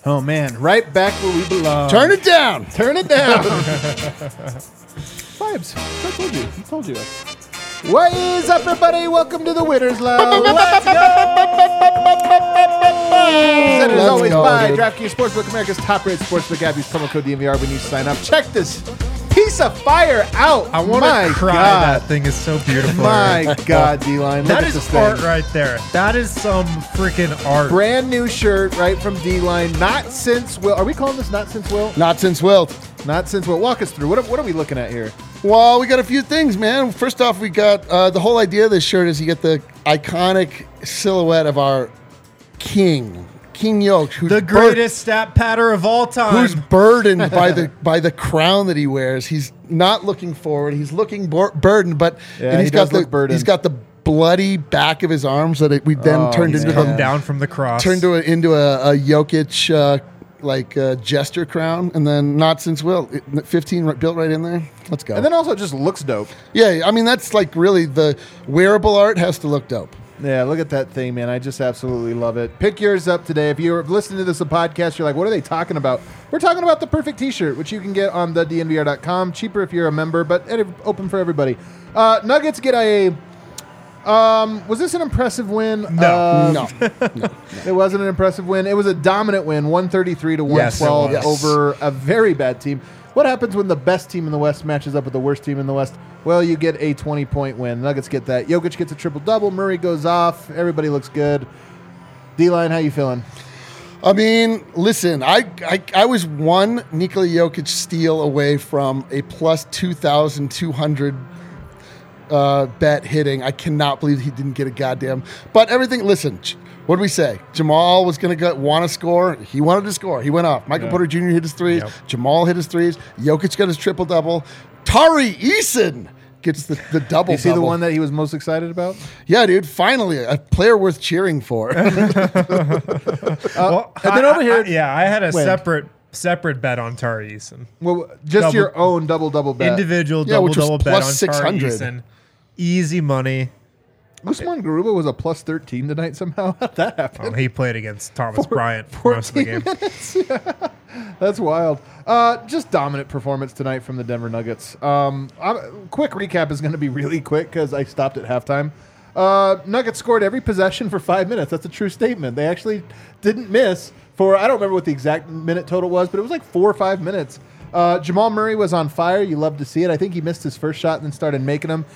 Oh, man. Right back where we belong. Turn it down. Turn it down. Vibes. I told you. What is up, everybody? Welcome to the Winners Lounge. Let's go. Presented as always by DraftKings Sportsbook, America's top-rated sportsbook app. Use promo code DNVR when you sign up. Check this piece of fire out. I want to cry. God. That thing is so beautiful. My God, D-Line. Look That at is this art thing. right there. That is some freaking art. Brand new shirt right from D-Line. Not since Will. Are we calling this Not Since Will? Not since Wilt. Not since Will. Walk us through. What are we looking at here? Well, we got a few things, man. First off, we got the whole idea of this shirt is you get the iconic silhouette of our King Yoke, who's The greatest stat patter of all time. who's burdened by the crown that he wears. He's not looking forward. He's looking burdened, but Yeah, and he he's does got look burdened. he's got the bloody back of his arms that we then turned He's into come the down from the cross. turned into a Jokic gesture crown, and then Not Since Will 15 built right in there. Let's go. And then also it just looks dope. Yeah, I mean that's like really the wearable art has to look dope. Yeah, look at that thing, man. I just absolutely love it. Pick yours up today. If you're listening to this a podcast, you're like, what are they talking about? We're talking about the perfect t-shirt, which you can get on thednvr.com. Cheaper if you're a member, but open for everybody. Nuggets get a... was this an impressive win? No. It wasn't an impressive win. It was a dominant win, 133 to 112 Yes. over a very bad team. What happens when the best team in the West matches up with the worst team in the West? Well, you get a 20-point win. Nuggets get that. Jokic gets a triple-double. Murray goes off. Everybody looks good. D-Line, how you feeling? I mean, listen, I was one Nikola Jokic steal away from a plus 2,200 bet hitting. I cannot believe he didn't get a goddamn. But everything, listen, what did we say? Jamal was going to want to score. He wanted to score. He went off. Michael Porter Jr. hit his threes. Yep. Jamal hit his threes. Jokic got his triple-double. Tari Eason gets the double-double. You see the one that he was most excited about? Yeah, dude, finally, a player worth cheering for. Well, and then over here... I had a Win. separate bet on Tari Eason. Well, just your own double-double bet. Individual Yeah, which was double bet on plus Tari 600. Eason. Easy money. Usman Garuba was a plus 13 tonight somehow. How'd that happen? He played against Thomas Bryant for most of the game. That's wild. Just dominant performance tonight from the Denver Nuggets. Quick recap is going to be really quick because I stopped at halftime. Nuggets scored every possession for 5 minutes. That's a true statement. They actually didn't miss for, I don't remember what the exact minute total was, but it was like 4 or 5 minutes. Jamal Murray was on fire. You love to see it. I think he missed his first shot and then started making them.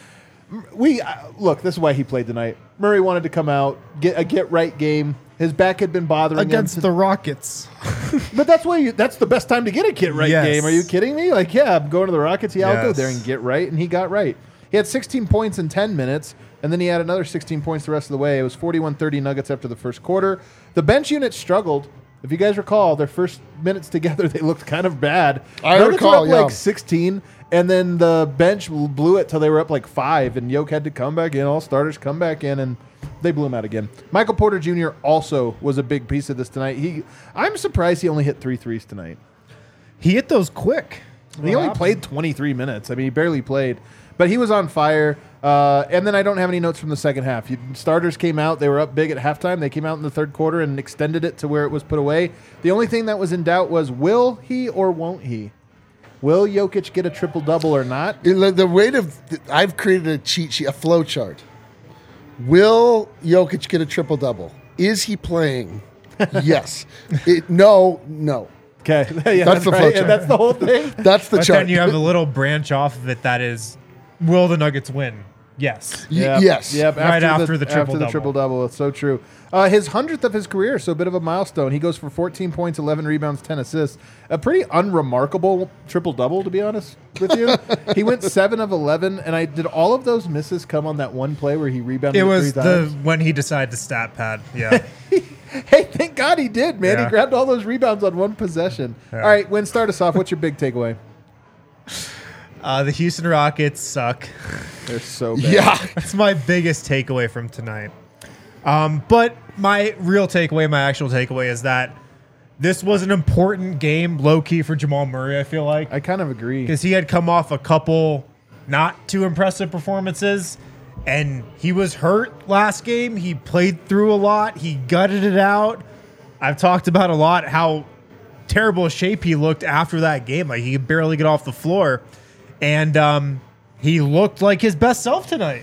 Look, this is why he played tonight. Murray wanted to come out, get a get-right game. His back had been bothering Against him. the Rockets. But that's the best time to get a get-right Yes. game. Are you kidding me? Like, yeah, I'm going to the Rockets. Yeah, I'll go Yes. there and get right. And he got right. He had 16 points in 10 minutes, and then he had another 16 points the rest of the way. It was 41-30 Nuggets after the first quarter. The bench unit struggled. If you guys recall, their first minutes together, they looked kind of bad. I Nuggets recall, were up yeah. like 16, and then the bench blew it till they were up like 5, and Yoke had to come back in. All starters come back in, and they blew him out again. Michael Porter Jr. also was a big piece of this tonight. I'm surprised he only hit 3 threes tonight. He hit those quick. He only played 23 minutes. I mean, he barely played. But he was on fire. And then I don't have any notes from the second half. Starters came out. They were up big at halftime. They came out in the third quarter and extended it to where it was put away. The only thing that was in doubt was, will he or won't he? Will Jokic get a triple-double or not? The rate of I've created a cheat sheet, a flow chart. Will Jokic get a triple-double? Is he playing? Yes. No. Okay. Yeah, That's the flow right. chart. And that's the whole thing. That's the But chart. then you have a little branch off of it that is, will the Nuggets win? Yes. Yes. Yep. Right after the After the triple-double. triple-double. It's so true. His 100th of his career, so a bit of a milestone. He goes for 14 points, 11 rebounds, 10 assists. A pretty unremarkable triple-double, to be honest with you. He went 7 of 11, and did all of those misses come on that one play where he rebounded It was 3 times? when he decided to stat pad. Yeah. Hey, thank God he did, man. Yeah. He grabbed all those rebounds on one possession. Yeah. All right, Win, start us off. What's your big takeaway? The Houston Rockets suck. They're so bad. Yeah. That's my biggest takeaway from tonight. But my real takeaway, my actual takeaway is that this was an important game, low-key, for Jamal Murray, I feel like. I kind of agree. Because he had come off a couple not too impressive performances, and he was hurt last game. He played through a lot. He gutted it out. I've talked about a lot how terrible shape he looked after that game. Like he could barely get off the floor. And he looked like his best self tonight.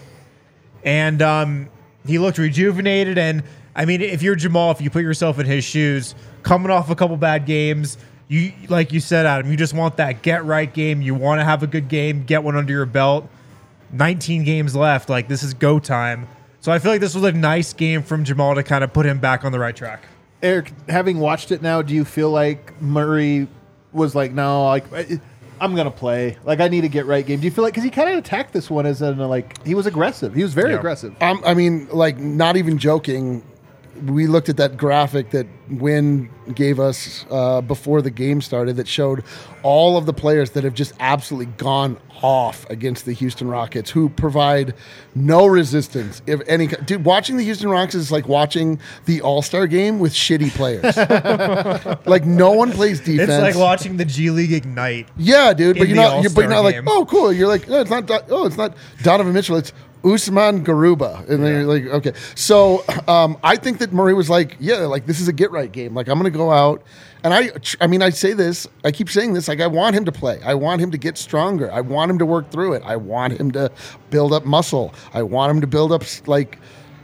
And he looked rejuvenated. And I mean, if you're Jamal, if you put yourself in his shoes, coming off a couple bad games, you, like you said, Adam, you just want that get right game. You want to have a good game, get one under your belt. 19 games left. Like, this is go time. So I feel like this was a nice game from Jamal to kind of put him back on the right track. Eric, having watched it now, do you feel like Murray was like, no, like I'm gonna play. Like I need a get right game. Do you feel like because he kind of attacked this one as in like he was aggressive. He was very aggressive. I mean, like not even joking. We looked at that graphic that Wynn gave us before the game started that showed all of the players that have just absolutely gone off against the Houston Rockets, who provide no resistance. If any, dude, watching the Houston Rockets is like watching the All-Star game with shitty players. Like no one plays defense. It's like watching the G League ignite. Yeah, dude, but in you're the not. But you're not like, game. oh, cool. You're like, no, it's not. Oh, it's not Donovan Mitchell. It's Usman Garuba, and then you're like, okay. So I think that Murray was like, yeah, like this is a get right game. Like I'm going to go out, and I mean, I say this, I keep saying this, like I want him to play. I want him to get stronger. I want him to work through it. I want him to build up muscle. I want him to build up like,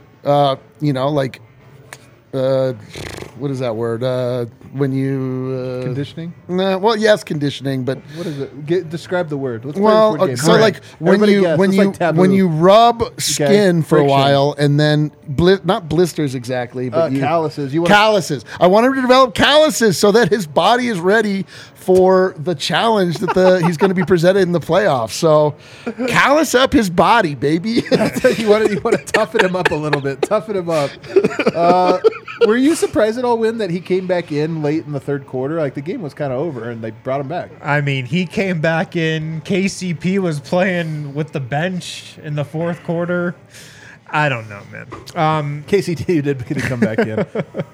like. What is that word? When you Conditioning? Nah, well, yes, conditioning, but What is it? Describe the word. Let's play well, this word game. so All like right. when Everybody you guess. when It's you like taboo. when you rub skin for a Friction. while and then not blisters exactly, but calluses. You want calluses. I want him to develop calluses so that his body is ready for the challenge that he's going to be presented in the playoffs. So callus up his body, baby. you want to toughen him up a little bit. Toughen him up. Were you surprised at all, Win, that he came back in late in the third quarter? Like the game was kind of over, and they brought him back. I mean, he came back in. KCP was playing with the bench in the fourth quarter. I don't know, man. KCT did come back in.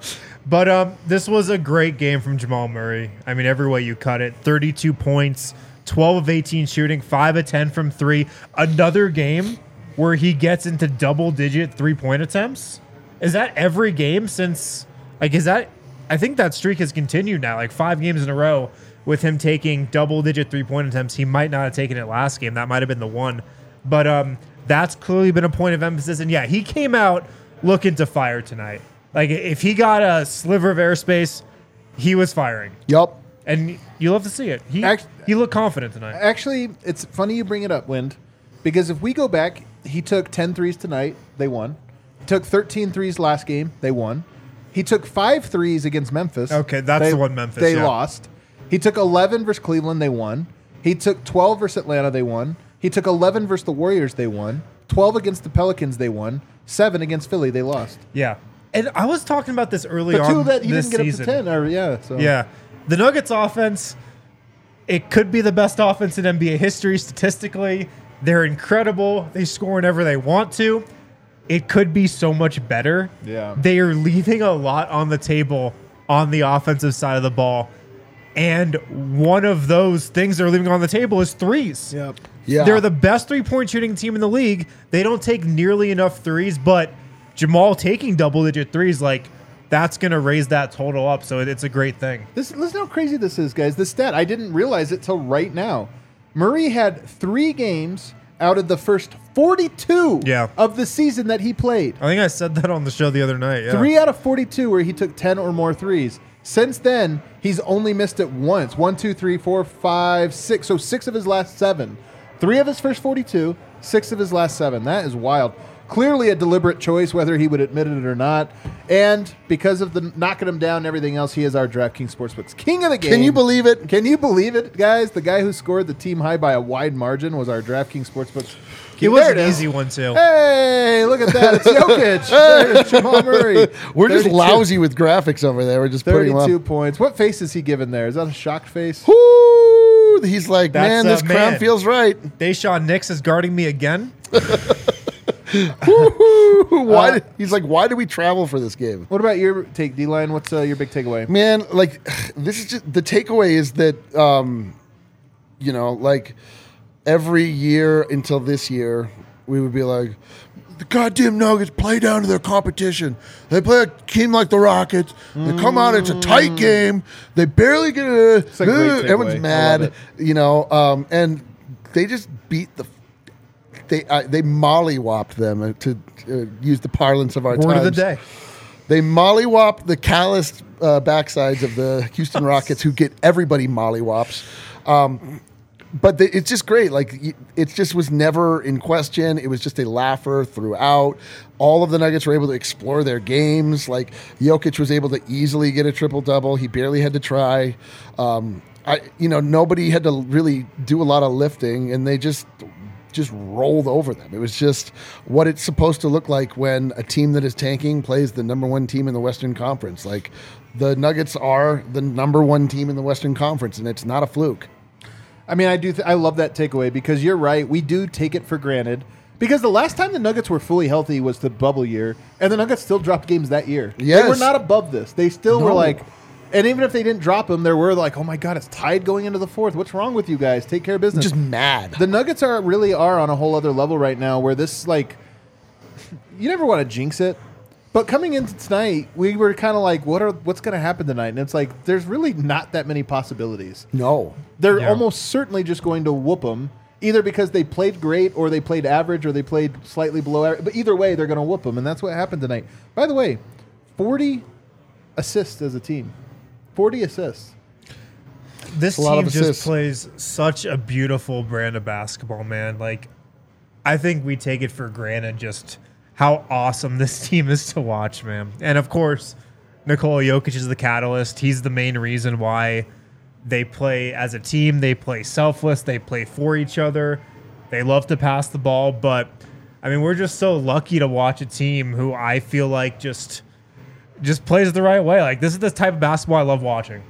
But this was a great game from Jamal Murray. I mean, every way you cut it. 32 points, 12 of 18 shooting, 5 of 10 from 3. Another game where he gets into double-digit three-point attempts. Is that every game since, like, I think that streak has continued now, like 5 games in a row with him taking double-digit three-point attempts. He might not have taken it last game. That might have been the one. But that's clearly been a point of emphasis. And, yeah, he came out looking to fire tonight. Like, if he got a sliver of airspace, he was firing. Yup. And you love to see it. He looked confident tonight. Actually, it's funny you bring it up, Wind, because if we go back, he took 10 threes tonight. They won. He took 13 threes last game. They won. He took 5 threes against Memphis. Okay, that's the one Memphis. They yeah. lost. He took 11 versus Cleveland. They won. He took 12 versus Atlanta. They won. He took 11 versus the Warriors. They won. 12 against the Pelicans. They won. 7 against Philly. They lost. Yeah. And I was talking about this early The on two that he this didn't get season. up to 10. Or, yeah. So. Yeah. The Nuggets offense, it could be the best offense in NBA history statistically. They're incredible. They score whenever they want to. It could be so much better. Yeah. They are leaving a lot on the table on the offensive side of the ball. And one of those things they're leaving on the table is threes. Yep. Yeah. They're the best three-point shooting team in the league. They don't take nearly enough threes, but Jamal taking double-digit threes, like, that's going to raise that total up. So it's a great thing. Listen how crazy this is, guys. This stat, I didn't realize it till right now. Murray had 3 games out of the first 42 of the season that he played. I think I said that on the show the other night. Yeah. 3 out of 42 where he took 10 or more threes. Since then, he's only missed it once. 1, 2, 3, 4, 5, 6. So 6 of his last 7. 3 of his first 42, 6 of his last 7. That is wild. Clearly a deliberate choice, whether he would admit it or not. And because of the knocking him down and everything else, he is our DraftKings Sportsbooks king of the game. Can you believe it? Can you believe it, guys? The guy who scored the team high by a wide margin was our DraftKings Sportsbooks. It was There an it is. easy one, too. Hey, look at that. It's Jokic. There's Jamal Murray. We're just 32 lousy with graphics over there. We're just putting them 32 up. points. What face is he giving there? Is that a shocked face? Woo! He's like, That's man, a this crown man. feels right. Deshaun Nix is guarding me again. Why? He's like, why do we travel for this game? What about your take, D-Line? What's your big takeaway? Man, like, this is just the takeaway is that, like every year until this year, we would be like, the goddamn Nuggets play down to their competition. They play a team like the Rockets. They come out, it's a tight game. They barely get a. a great takeaway. Everyone's I mad, love and they just beat the. They mollywopped them to use the parlance of our Word times. of the day. They mollywopped the calloused backsides of the Houston Rockets, who get everybody mollywops. But it's just great. Like, it just was never in question. It was just a laugher throughout. All of the Nuggets were able to explore their games. Like, Jokic was able to easily get a triple-double. He barely had to try. Nobody had to really do a lot of lifting, and they just rolled over them. It was just what it's supposed to look like when a team that is tanking plays the number one team in the Western Conference. Like, the Nuggets are the number one team in the Western Conference, and it's not a fluke. I mean, I love that takeaway because you're right. We do take it for granted because the last time the Nuggets were fully healthy was the bubble year, and the Nuggets still dropped games that year. Yes. They were not above this. They still were like, and even if they didn't drop them, there were like, oh my God, it's tied going into the fourth. What's wrong with you guys? Take care of business. Just mad. The Nuggets really are on a whole other level right now where this, like, you never want to jinx it. But coming into tonight, we were kind of like, what's going to happen tonight? And it's like, there's really not that many possibilities. No. They're almost certainly just going to whoop them, either because they played great or they played average or they played slightly below average. But either way, they're going to whoop them, and that's what happened tonight. By the way, 40 assists as a team. 40 assists. This a lot team of just assists. plays such a beautiful brand of basketball, man. Like, I think we take it for granted just how awesome this team is to watch, man. And of course, Nikola Jokic is the catalyst. He's the main reason why they play as a team. They play selfless. They play for each other. They love to pass the ball. But, I mean, we're just so lucky to watch a team who I feel like just plays the right way. Like, this is the type of basketball I love watching.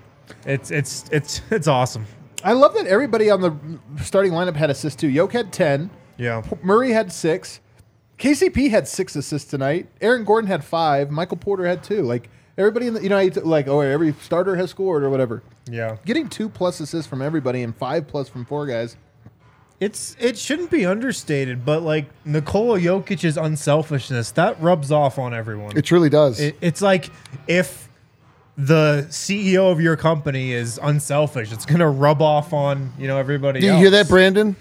It's awesome. I love that everybody on the starting lineup had assists too. Yoke had 10. Yeah. Murray had 6. KCP had 6 assists tonight. Aaron Gordon had 5. Michael Porter had 2. Like, everybody in the, every starter has scored or whatever. Yeah. Getting 2+ assists from everybody and 5+ from 4 guys. It shouldn't be understated, but like Nikola Jokic's unselfishness, that rubs off on everyone. It truly does. It's like if the CEO of your company is unselfish, it's gonna rub off on everybody Do you else. hear that, Brandon?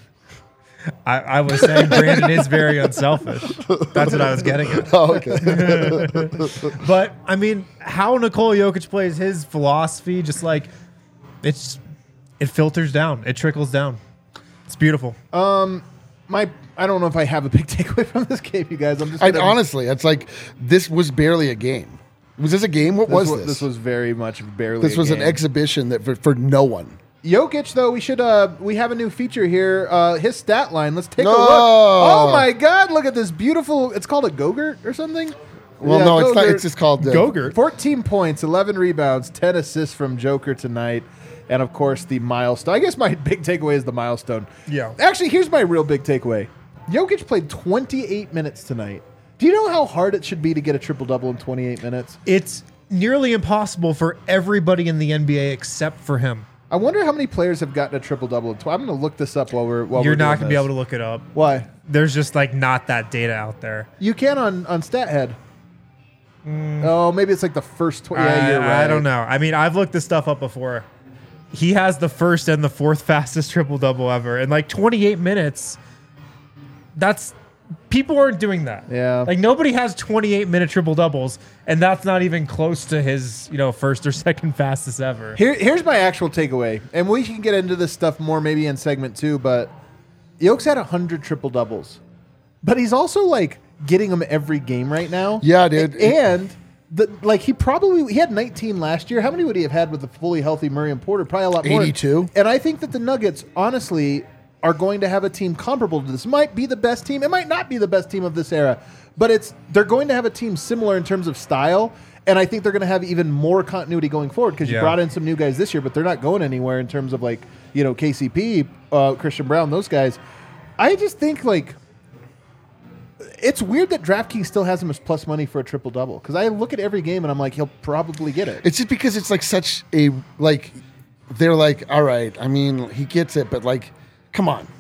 I was saying Brandon is very unselfish. That's what I was getting at. Oh, okay. But I mean, how Nikola Jokic plays his philosophy, just like it filters down, it trickles down. It's beautiful. I don't know if I have a big takeaway from this game, you guys. I'm just Honestly, it's like this was barely a game. Was this a game? What was this? This was very much barely. This was an exhibition that for no one. Jokic, though, we have a new feature here. His stat line. Let's take a No. look. Oh my God! Look at this beautiful. It's called a Gogurt or something. Well, Yeah, no, it's not. Gogurt. It's just called Gogurt. 14 points, 11 rebounds, 10 assists from Joker tonight. And, of course, the milestone. I guess my big takeaway is the milestone. Yeah. Actually, here's my real big takeaway. Jokic played 28 minutes tonight. Do you know how hard it should be to get a triple-double in 28 minutes? It's nearly impossible for everybody in the NBA except for him. I wonder how many players have gotten a triple-double. I'm going to look this up while we're You're not going gonna be able to look it up. Why? There's just like not that data out there. You can on StatHead. Oh, maybe it's like the first 20. Yeah, you're right. I don't know. I mean, I've looked this stuff up before. He has the first and the fourth fastest triple double ever in like 28 minutes. That's people aren't doing that. Yeah. Like nobody has 28-minute triple doubles, and that's not even close to his first or second fastest ever. Here's my actual takeaway, and we can get into this stuff more maybe in segment 2. But Yoke's had 100 triple doubles, but he's also like getting them every game right now. Yeah, dude. And he had 19 last year. How many would he have had with a fully healthy Murray and Porter? Probably a lot more. 82. And I think that the Nuggets, honestly, are going to have a team comparable to this. Might be the best team. It might not be the best team of this era, but they're going to have a team similar in terms of style. And I think they're going to have even more continuity going forward because you brought in some new guys this year, but they're not going anywhere in terms of KCP, Christian Brown, those guys. I just think it's weird that DraftKings still has him as plus money for a triple double because I look at every game and I'm like, he'll probably get it. It's just because it's like such a they're like, all right. I mean, he gets it, but come on.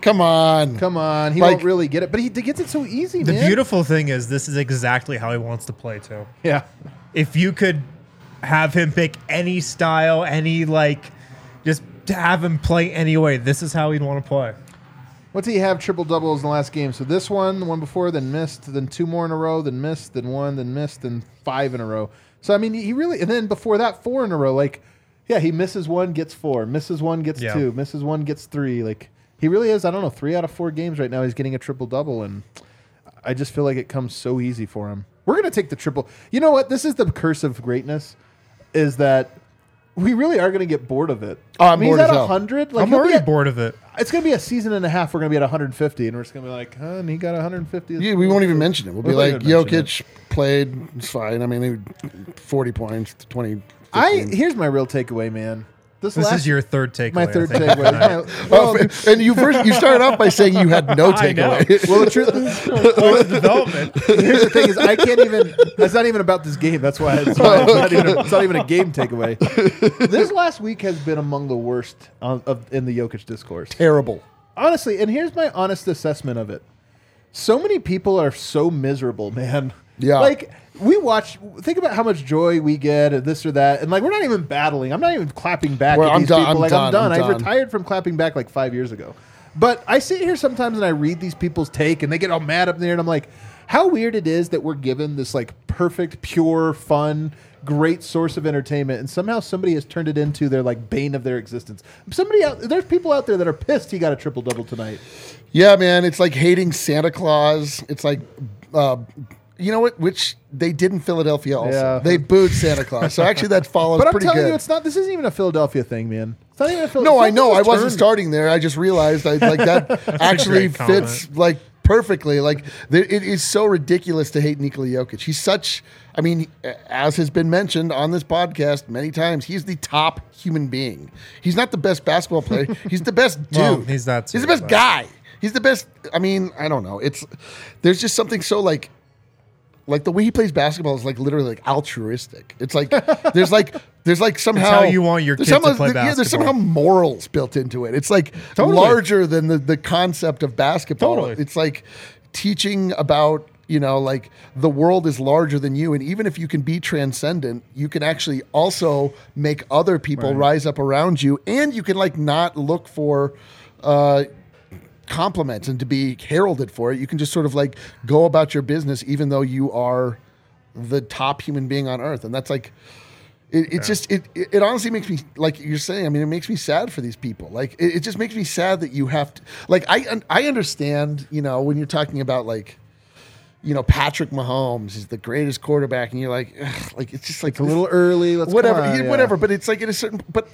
Come on. Come on. He Like- won't really get it. But he gets it so easy, The man. beautiful thing is this is exactly how he wants to play too. Yeah. If you could have him pick any style, any just to have him play any way, this is how he'd want to play. What's he have triple doubles in the last game? So this one, the one before, then missed, then 2 more in a row, then missed, then 1, then missed, then 5 in a row. So I mean, he really, and then before that, 4 in a row. Like, yeah, he misses 1, gets 4, misses 1, gets 2, misses 1, gets 3. Like, he really is. I don't know, 3 out of 4 games right now. He's getting a triple double, and I just feel like it comes so easy for him. We're gonna take the triple. You know what? This is the curse of greatness, is that we really are gonna get bored of it. Oh, I'm I mean, bored he's as at hell. 100. Like, I'm he'll be already at- bored of it. It's going to be a season and a half. We're going to be at 150, and we're just going to be like, and he got 150. Yeah, we won't even mention it. We'll be We'll like, not even mention Jokic played. It's fine. I mean, 40 points, 20. 15. Here's my real taarguay, man. This is your third takeaway. my third I think, takeaway. tonight. Oh, and you started off by saying you had no I know. takeaway. Well, the truth Where's the development? here's the thing is, I can't even. That's not even about this game. That's why it's not even a game takeaway. This last week has been among the worst in the Jokic discourse. Terrible. Honestly, and here's my honest assessment of it. So many people are so miserable, man. Yeah. Like, think about how much joy we get and this or that. And, like, we're not even battling. I'm not even clapping back Well, at I'm these done. people. I'm Like, done. I'm done. I'm I done. retired from clapping back like 5 years ago. But I sit here sometimes and I read these people's take and they get all mad up there. And I'm like, how weird it is that we're given this, like, perfect, pure, fun, great source of entertainment, and somehow somebody has turned it into their, like, bane of their existence. There's people out there that are pissed he got a triple double tonight. Yeah, man. It's like hating Santa Claus. It's like, you know what? Which they did in Philadelphia also. Yeah. They booed Santa Claus. So actually that follows But I'm pretty telling good. you, it's not. This isn't even a Philadelphia thing, man. It's not even a Philadelphia. No, I know. I wasn't starting there. I just realized that actually great comment. fits like perfectly. Like it is so ridiculous to hate Nikola Jokic. He's such. I mean, as has been mentioned on this podcast many times, he's the top human being. He's not the best basketball player. He's the best dude. Well, he's that too, He's the best but- guy. He's the best. I mean, I don't know. There's just something so like the way he plays basketball is like literally like altruistic. It's like there's like somehow how you want your there's kid to somehow- play yeah, there's basketball. somehow morals built into it. It's like Totally. larger than the concept of basketball. Totally. It's like teaching about, like the world is larger than you. And even if you can be transcendent, you can actually also make other people rise up around you. And you can like not look for compliments and to be heralded for it. You can just sort of like go about your business, even though you are the top human being on earth. And that's like, it honestly makes me, like you're saying, I mean, it makes me sad for these people. Like, it just makes me sad that you have to, like, I understand, when you're talking about like, Patrick Mahomes is the greatest quarterback, and you're like, ugh, like, it's just like a little early. Let's whatever, come on, yeah. whatever. But it's like but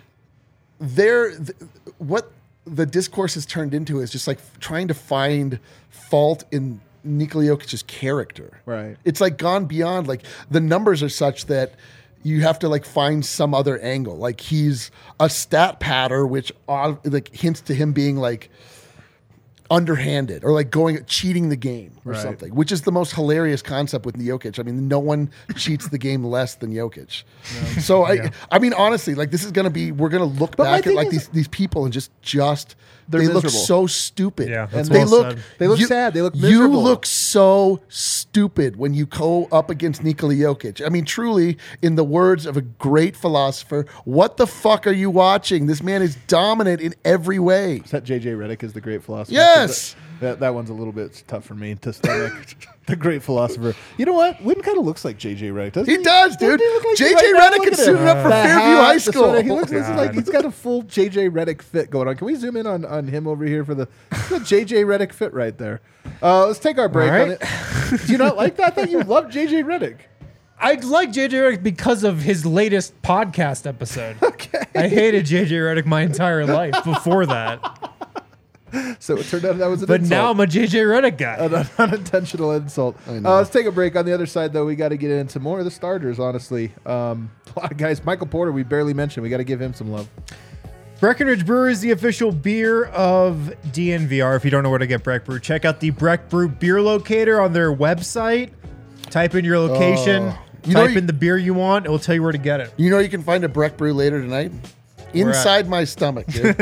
what the discourse has turned into is just like trying to find fault in Nikola Jokic's character. Right. It's like gone beyond, like the numbers are such that you have to like find some other angle. Like he's a stat patter, which like hints to him being like underhanded or like cheating the game or Right. something, which is the most hilarious concept with Jokic. I mean, no one cheats the game less than Jokic. So I mean, honestly, like this is going to be, we're going to look But my back at thing like is- these people and just They're they look miserable. so stupid. Yeah, and that's they well look said. They look sad. They look You miserable. look so stupid when you go up against Nikola Jokic. I mean, truly, in the words of a great philosopher, what the fuck are you watching? This man is dominant in every way. Is that JJ Redick is the great philosopher? Yes. That one's a little bit tough for me to stomach. The great philosopher. You know what? Wynn kind of looks like JJ Redick, doesn't he? He does, dude. Doesn't he look like JJ right now? Redick Look had at him. suited up for The Fairview hat, High the School. sweater. He looks like God. he's got a full JJ Redick fit going on. Can we zoom in on him over here for the JJ Redick fit right there? Let's take our break. All On right. it. Do you not like that? I thought you loved JJ Redick. I like JJ Redick because of his latest podcast episode. Okay. I hated JJ Redick my entire life before that. So it turned out that was an But insult. now I'm a JJ Redick guy. An unintentional insult. Let's take a break. On the other side, though, we got to get into more of the starters, honestly. A lot of guys. Michael Porter, we barely mentioned. We got to give him some love. Breckenridge Brewer is the official beer of DNVR. If you don't know where to get Breck Brew, check out the Breck Brew beer locator on their website. Type in your location. You know Type in the beer you want. It will tell you where to get it. You know you can find a Breck Brew later tonight? inside my stomach, dude.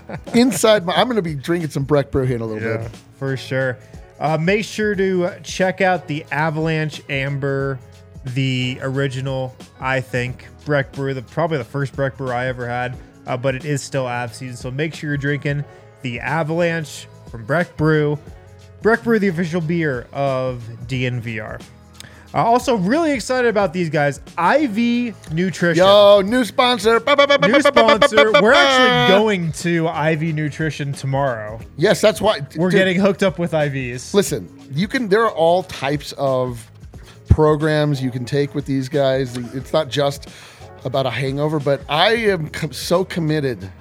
I'm going to be drinking some Breck Brew here in a little bit. For sure. Make sure to check out the Avalanche Amber, the original, I think, Breck Brew, probably the first Breck Brew I ever had, but it is still Av season. So make sure you're drinking the Avalanche from Breck Brew. Breck Brew, the official beer of DNVR. Also, really excited about these guys. IV Nutrition. Yo, new sponsor. New sponsor. We're actually going to IV Nutrition tomorrow. Yes, that's why. We're getting hooked up with IVs. Listen, there are all types of programs you can take with these guys. It's not just about a hangover, but I am so committed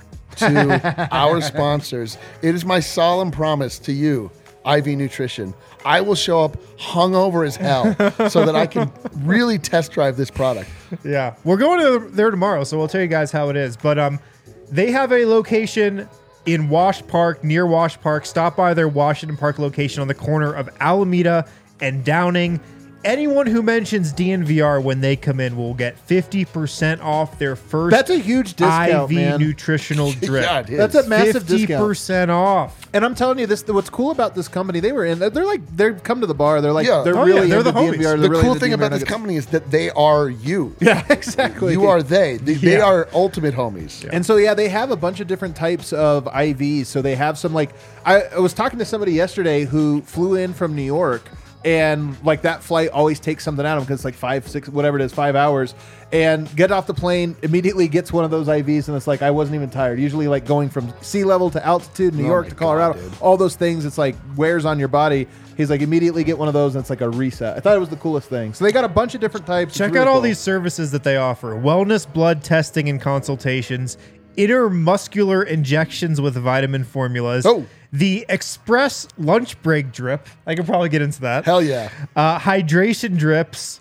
to our sponsors. It is my solemn promise to you, IV Nutrition. I will show up hungover as hell so that I can really test drive this product. Yeah, we're going there tomorrow, so we'll tell you guys how it is. But they have a location in Wash Park, near Wash Park. Stop by their Washington Park location on the corner of Alameda and Downing. Anyone who mentions DNVR when they come in will get 50% off their first. That's a huge discount, IV man. nutritional drip. Yeah, it is. That's a massive discount. 50% off. And I'm telling you this, what's cool about this company, they're come to the bar. They're like, Yeah. they're Oh, yeah, really they're into the homies. DNVR. They're The really cool into thing DNVR about this Nuggets. company is that they are you. Yeah, exactly. You are they. They are ultimate homies. And so, yeah, they have a bunch of different types of IVs. So they have some, like, I was talking to somebody yesterday who flew in from New York, and like that flight always takes something out of him because it's like 5, 6, whatever it is, 5 hours, and get off the plane, immediately gets one of those IVs, and it's like, I wasn't even tired. Usually like going from sea level to altitude, New York my to Colorado, God, dude. all those things, it's like wears on your body. He's like, immediately get one of those, and it's like a reset. I thought it was the coolest thing. So they got a bunch of different types. It's Check really out all cool. these services that they offer: wellness blood testing and consultations, intermuscular injections with vitamin formulas, the express lunch break drip. I could probably get into that. Hell yeah. Hydration drips,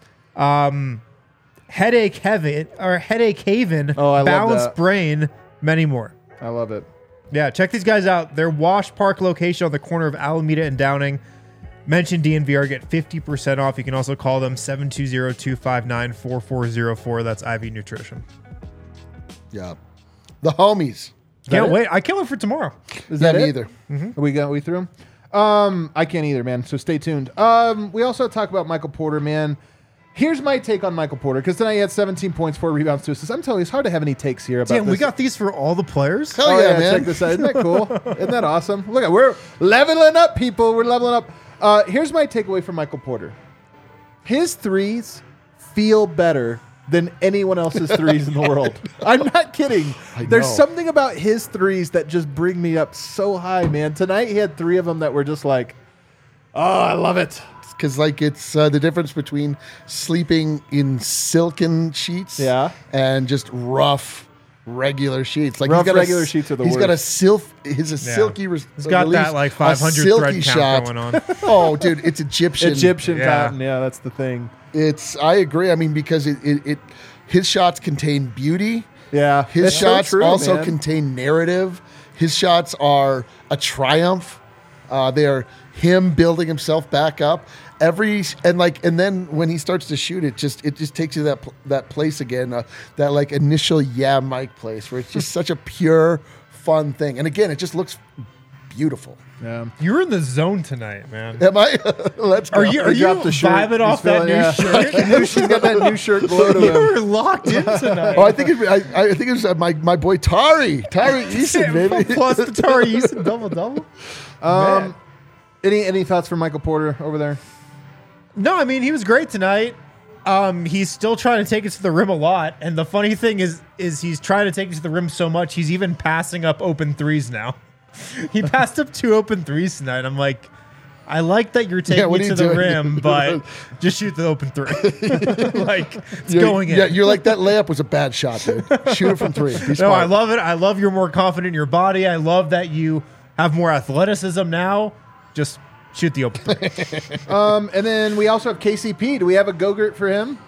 headache haven, Oh, I love balanced that. brain, many more. I love it. Yeah, check these guys out. Their Wash Park location on the corner of Alameda and Downing. Mention DNVR, get 50% off. You can also call them 720-259-4404. That's IV Nutrition. Yeah. The homies. Can't wait. I can't wait for tomorrow. Is that Me it? either. We threw him. I can't either, man. So stay tuned. We also talk about Michael Porter, man. Here's my take on Michael Porter, because tonight he had 17 points, 4 rebounds, 2 assists. I'm telling you, it's hard to have any takes here about Damn, this. we got these for all the players? Hell Oh, yeah, yeah, man. check this out. Isn't that cool? Isn't that awesome? Look at, we're leveling up, people. We're leveling up. Here's my takeaway from Michael Porter. His threes feel better than anyone else's threes in the world. I'm not kidding. There's know. something about his threes that just bring me up so high, man. Tonight he had 3 of them that were just like, oh, I love it. Because like it's the difference between sleeping in silken sheets and just rough regular sheets. Like Rough he's got regular sheets are the He's got a worst. silky. He's got that like 500 thread count going on. Oh, dude, it's Egyptian. Egyptian Yeah. cotton. Yeah, that's the thing. I agree. I mean, because his shots contain beauty. Yeah. His that's so shots true, also man. contain narrative. His shots are a triumph. They are him building himself back up. And then when he starts to shoot, it just takes you to that place again, that like initial Mike place where it's just such a pure, fun thing. And again, it just looks beautiful. Yeah. You're in the zone tonight, man. Am I? Let's go. Are you dropped the shirt. vibing off He's that feeling- new yeah. shirt? She's got that new shirt glow to him. You're locked in tonight. Oh, I think it was my boy Tari Eason, baby. Plus the Tari Eason double. Any thoughts from Michael Porter over there? No, I mean, he was great tonight. He's still trying to take it to the rim a lot. And the funny thing is he's trying to take it to the rim so much, he's even passing up open threes now. He passed up 2 open threes tonight. I'm like, I like that you're taking what it are to you the doing? rim, but just shoot the open 3. Like, it's You're- going in. Yeah, you're like, that layup was a bad shot, dude. Shoot it from 3. Be No, smart. I love it. I love you're more confident in your body. I love that you have more athleticism now. Just shoot the open 3. And then we also have KCP. Do we have a Go-Gurt for him?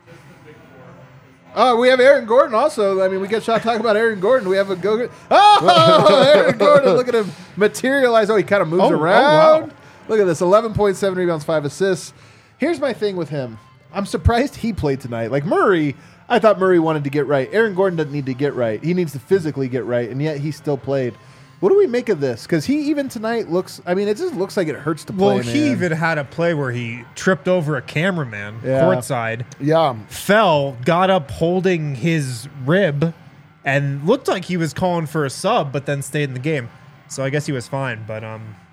Oh, we have Aaron Gordon also. I mean, we get shot talking about Aaron Gordon. We have a Go-Gurt. Oh, Aaron Gordon. Look at him materialize. Oh, he kind of moves around. wow. Look at this. 11.7 rebounds, 5 assists. Here's my thing with him. I'm surprised he played tonight. Like Murray, I thought Murray wanted to get right. Aaron Gordon doesn't need to get right. He needs to physically get right, and yet he still played. What do we make of this? Because he even tonight looks. I mean, it just looks like it hurts to play. Well, he man. even had a play where he tripped over a cameraman Yeah. courtside, Yeah. fell, got up holding his rib, and looked like he was calling for a sub, but then stayed in the game. So I guess he was fine. But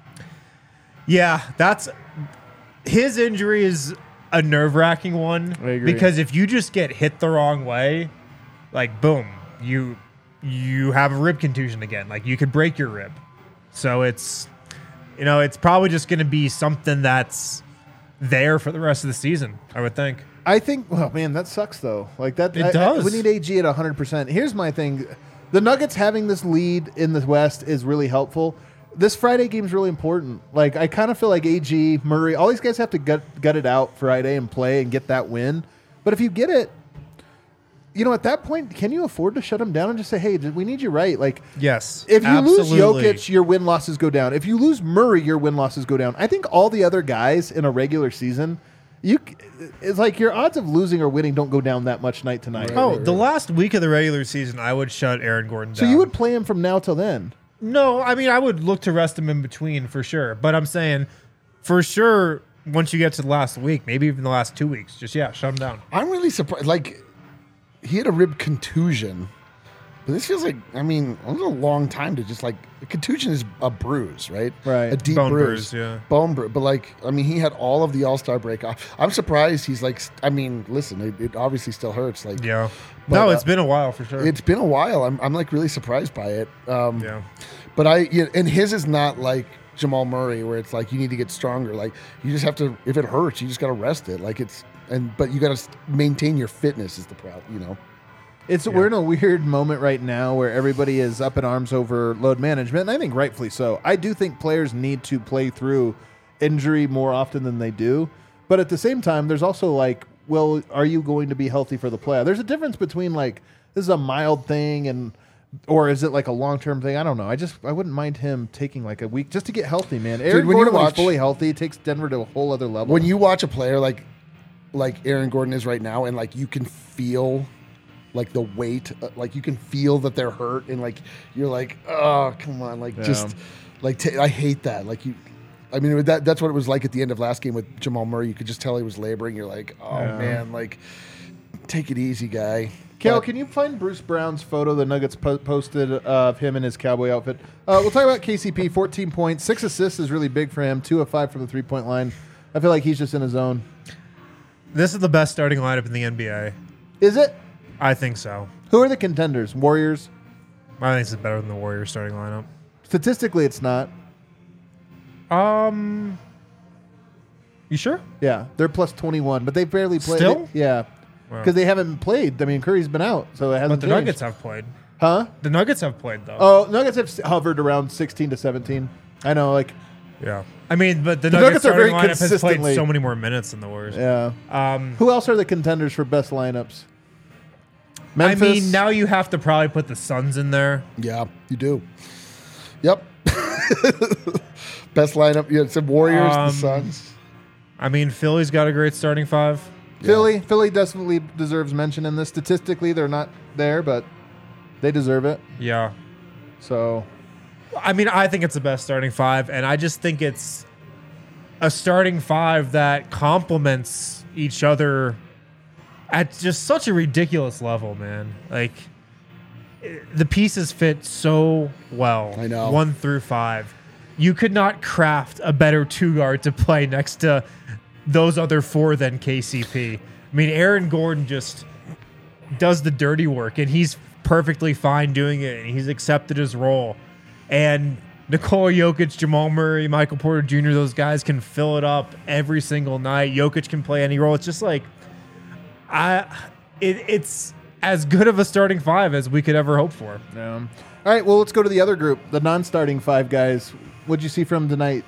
yeah, that's his injury is a nerve-wracking one. I agree. Because if you just get hit the wrong way, like boom, you have a rib contusion again. Like you could break your rib. So it's probably just going to be something that's there for the rest of the season, I would think. I think. Oh man, that sucks though. Like that. It does. We need AG at 100%. Here's my thing: the Nuggets having this lead in the West is really helpful. This Friday game is really important. Like I kind of feel like AG, Murray, all these guys have to gut it out Friday and play and get that win. But if you get it, at that point, can you afford to shut them down and just say, "Hey, we need you right"? Like, Yes. if you absolutely. lose Jokic, your win losses go down. If you lose Murray, your win losses go down. I think all the other guys in a regular season, it's like your odds of losing or winning don't go down that much night to night. Oh, the last week of the regular season, I would shut Aaron Gordon So down. you would play him from now till then. No, I mean, I would look to rest him in between for sure. But I'm saying, for sure, once you get to the last week, maybe even the last 2 weeks, just, shut him down. I'm really surprised. Like, he had a rib contusion. But this feels like, it was a long time to just, like, a contusion is a bruise, right? Right. A deep Bone bruise. bruise, yeah. Bone bruise. But, he had all of the All-Star break off. I'm surprised he's, listen, it obviously still hurts. Like, Yeah. But, No, it's been a while for sure. It's been a while. I'm like, really surprised by it. Yeah. But and his is not like Jamal Murray, where it's like you need to get stronger. Like you just have to. If it hurts, you just got to rest it. Like but you got to maintain your fitness is the problem. We're in a weird moment right now where everybody is up in arms over load management, and I think rightfully so. I do think players need to play through injury more often than they do, but at the same time, there's also like, well, are you going to be healthy for the playoff? There's a difference between like this is a mild thing or is it like a long-term thing? I don't know. I wouldn't mind him taking like a week just to get healthy, man. Aaron when Gordon, you when he's watch- fully healthy, takes Denver to a whole other level. When you watch a player like Aaron Gordon is right now, and like you can feel like the weight, like you can feel that they're hurt, and like you're like, oh, come on, like just like I hate that. Like that's what it was like at the end of last game with Jamal Murray. You could just tell he was laboring. You're like, oh man, like take it easy, guy. Kale, But- can you find Bruce Brown's photo the Nuggets posted of him in his cowboy outfit? We'll talk about KCP, 14 points. 6 assists is really big for him. 2 of 5 from the three-point line. I feel like he's just in his zone. This is the best starting lineup in the NBA. Is it? I think so. Who are the contenders? Warriors? I think this is better than the Warriors starting lineup. Statistically, it's not. You sure? Yeah, they're plus 21, but they barely played. Still? Yeah, Wow. because they haven't played. I mean, Curry's been out, so it hasn't But the changed. Nuggets have played. Huh? The Nuggets have played, though. Oh, Nuggets have hovered around 16 to 17. I know, like, Yeah. I mean, but the Nuggets Nuggets are very starting lineup has played consistently- so many more minutes than the Warriors. yeah. Who else are the contenders for best lineups? Memphis? I mean, now you have to probably put the Suns in there. Yeah, you do. Yep. Best lineup. Yeah, it's the Warriors, the Suns. I mean, Philly's got a great starting five. Philly definitely deserves mention in this. Statistically, they're not there, but they deserve it. Yeah. So, I mean, I think it's the best starting five, and I just think it's a starting five that complements each other at just such a ridiculous level, man. Like, the pieces fit so well. I know. 1 through 5. You could not craft a better 2-guard to play next to those other 4 than KCP. I mean, Aaron Gordon just does the dirty work, and he's perfectly fine doing it, and he's accepted his role. And Nikola Jokic, Jamal Murray, Michael Porter Jr., those guys can fill it up every single night. Jokic can play any role. It's just like, it's as good of a starting five as we could ever hope for. yeah. All right, well, let's go to the other group, the non-starting 5 guys. What'd you see from tonight?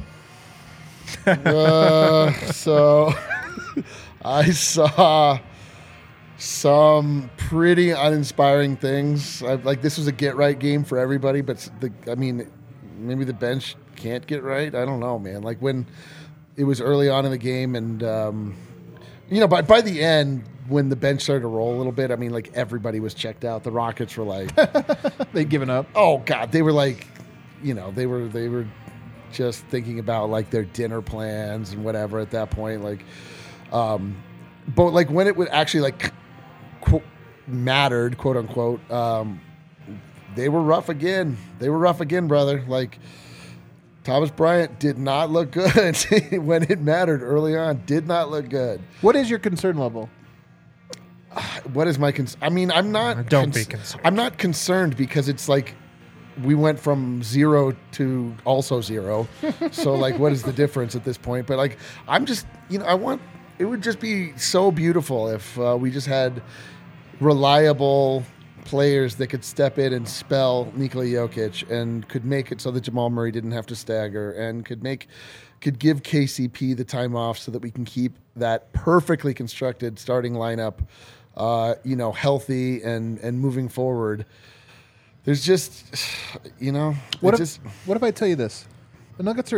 So I saw some pretty uninspiring things. This was a get right game for everybody, but maybe the bench can't get right. I don't know, man. Like when it was early on in the game, and by the end, when the bench started to roll a little bit, I mean, like everybody was checked out. The Rockets were like, They'd given up. oh God, they were like, they were just thinking about like their dinner plans and whatever at that point. Like, but like when it would actually like mattered, quote unquote, they were rough again. They were rough again, brother. Like Thomas Bryant did not look good when it mattered early on. Did not look good. What is your concern level? What is my concern? I mean, I'm not. Don't be concerned. I'm not concerned because it's like we went from 0 to also 0. So like, what is the difference at this point? But like, I'm just, it would just be so beautiful if we just had reliable players that could step in and spell Nikola Jokic and could make it so that Jamal Murray didn't have to stagger and could give KCP the time off so that we can keep that perfectly constructed starting lineup, healthy and moving forward. There's just, What if I tell you this? The Nuggets are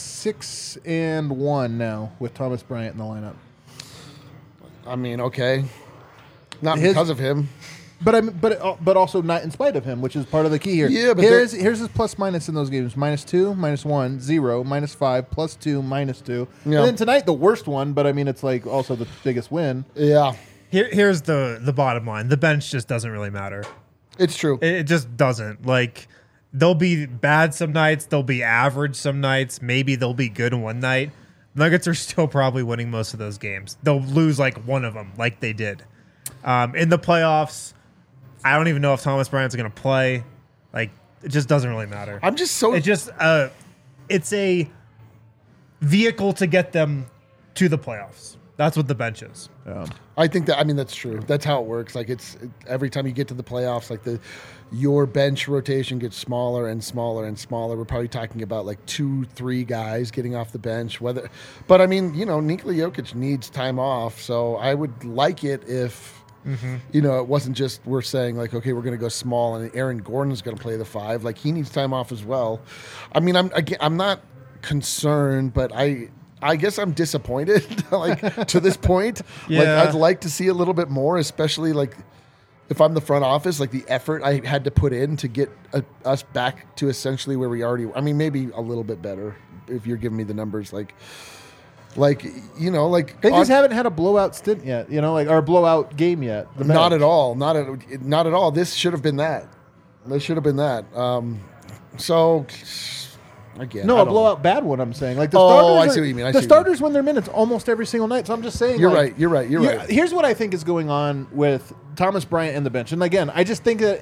6-1 now with Thomas Bryant in the lineup. I mean, okay, not because of him. But also not in spite of him, which is part of the key here. Yeah, but here's his plus minus in those games: -2, -1, 0, -5, +2, -2. Yeah. And then tonight the worst one, but I mean it's like also the biggest win. Yeah, Here's the bottom line. The bench just doesn't really matter. it's true. It just doesn't. Like, they'll be bad some nights. They'll be average some nights. Maybe they'll be good one night. Nuggets are still probably winning most of those games. They'll lose like one of them, like they did. In the playoffs, I don't even know if Thomas Bryant's going to play. Like, it just doesn't really matter. I'm just so. It's just it's a vehicle to get them to the playoffs. That's what the bench is. I think that's true. That's how it works. Like every time you get to the playoffs, like your bench rotation gets smaller and smaller and smaller. We're probably talking about like 2-3 guys getting off the bench. But I mean, Nikola Jokic needs time off, so I would like it if. It wasn't just we're saying like, okay, we're going to go small and Aaron Gordon's going to play the 5. Like he needs time off as well. I mean, I'm not concerned, but I guess I'm disappointed like to this point. Yeah. Like I'd like to see a little bit more, especially like if I'm the front office, like the effort I had to put in to get us back to essentially where we already. I mean, maybe a little bit better if you're giving me the numbers like they just haven't had a blowout stint yet, or a blowout game yet. Not at all. Not at all. This should have been that. So again, No, a blowout bad one. I'm saying like the Oh, starters. I see what you mean. The starters win their minutes almost every single night. So I'm just saying. You're like, right. You're right. Here's what I think is going on with Thomas Bryant and the bench. And again, I just think that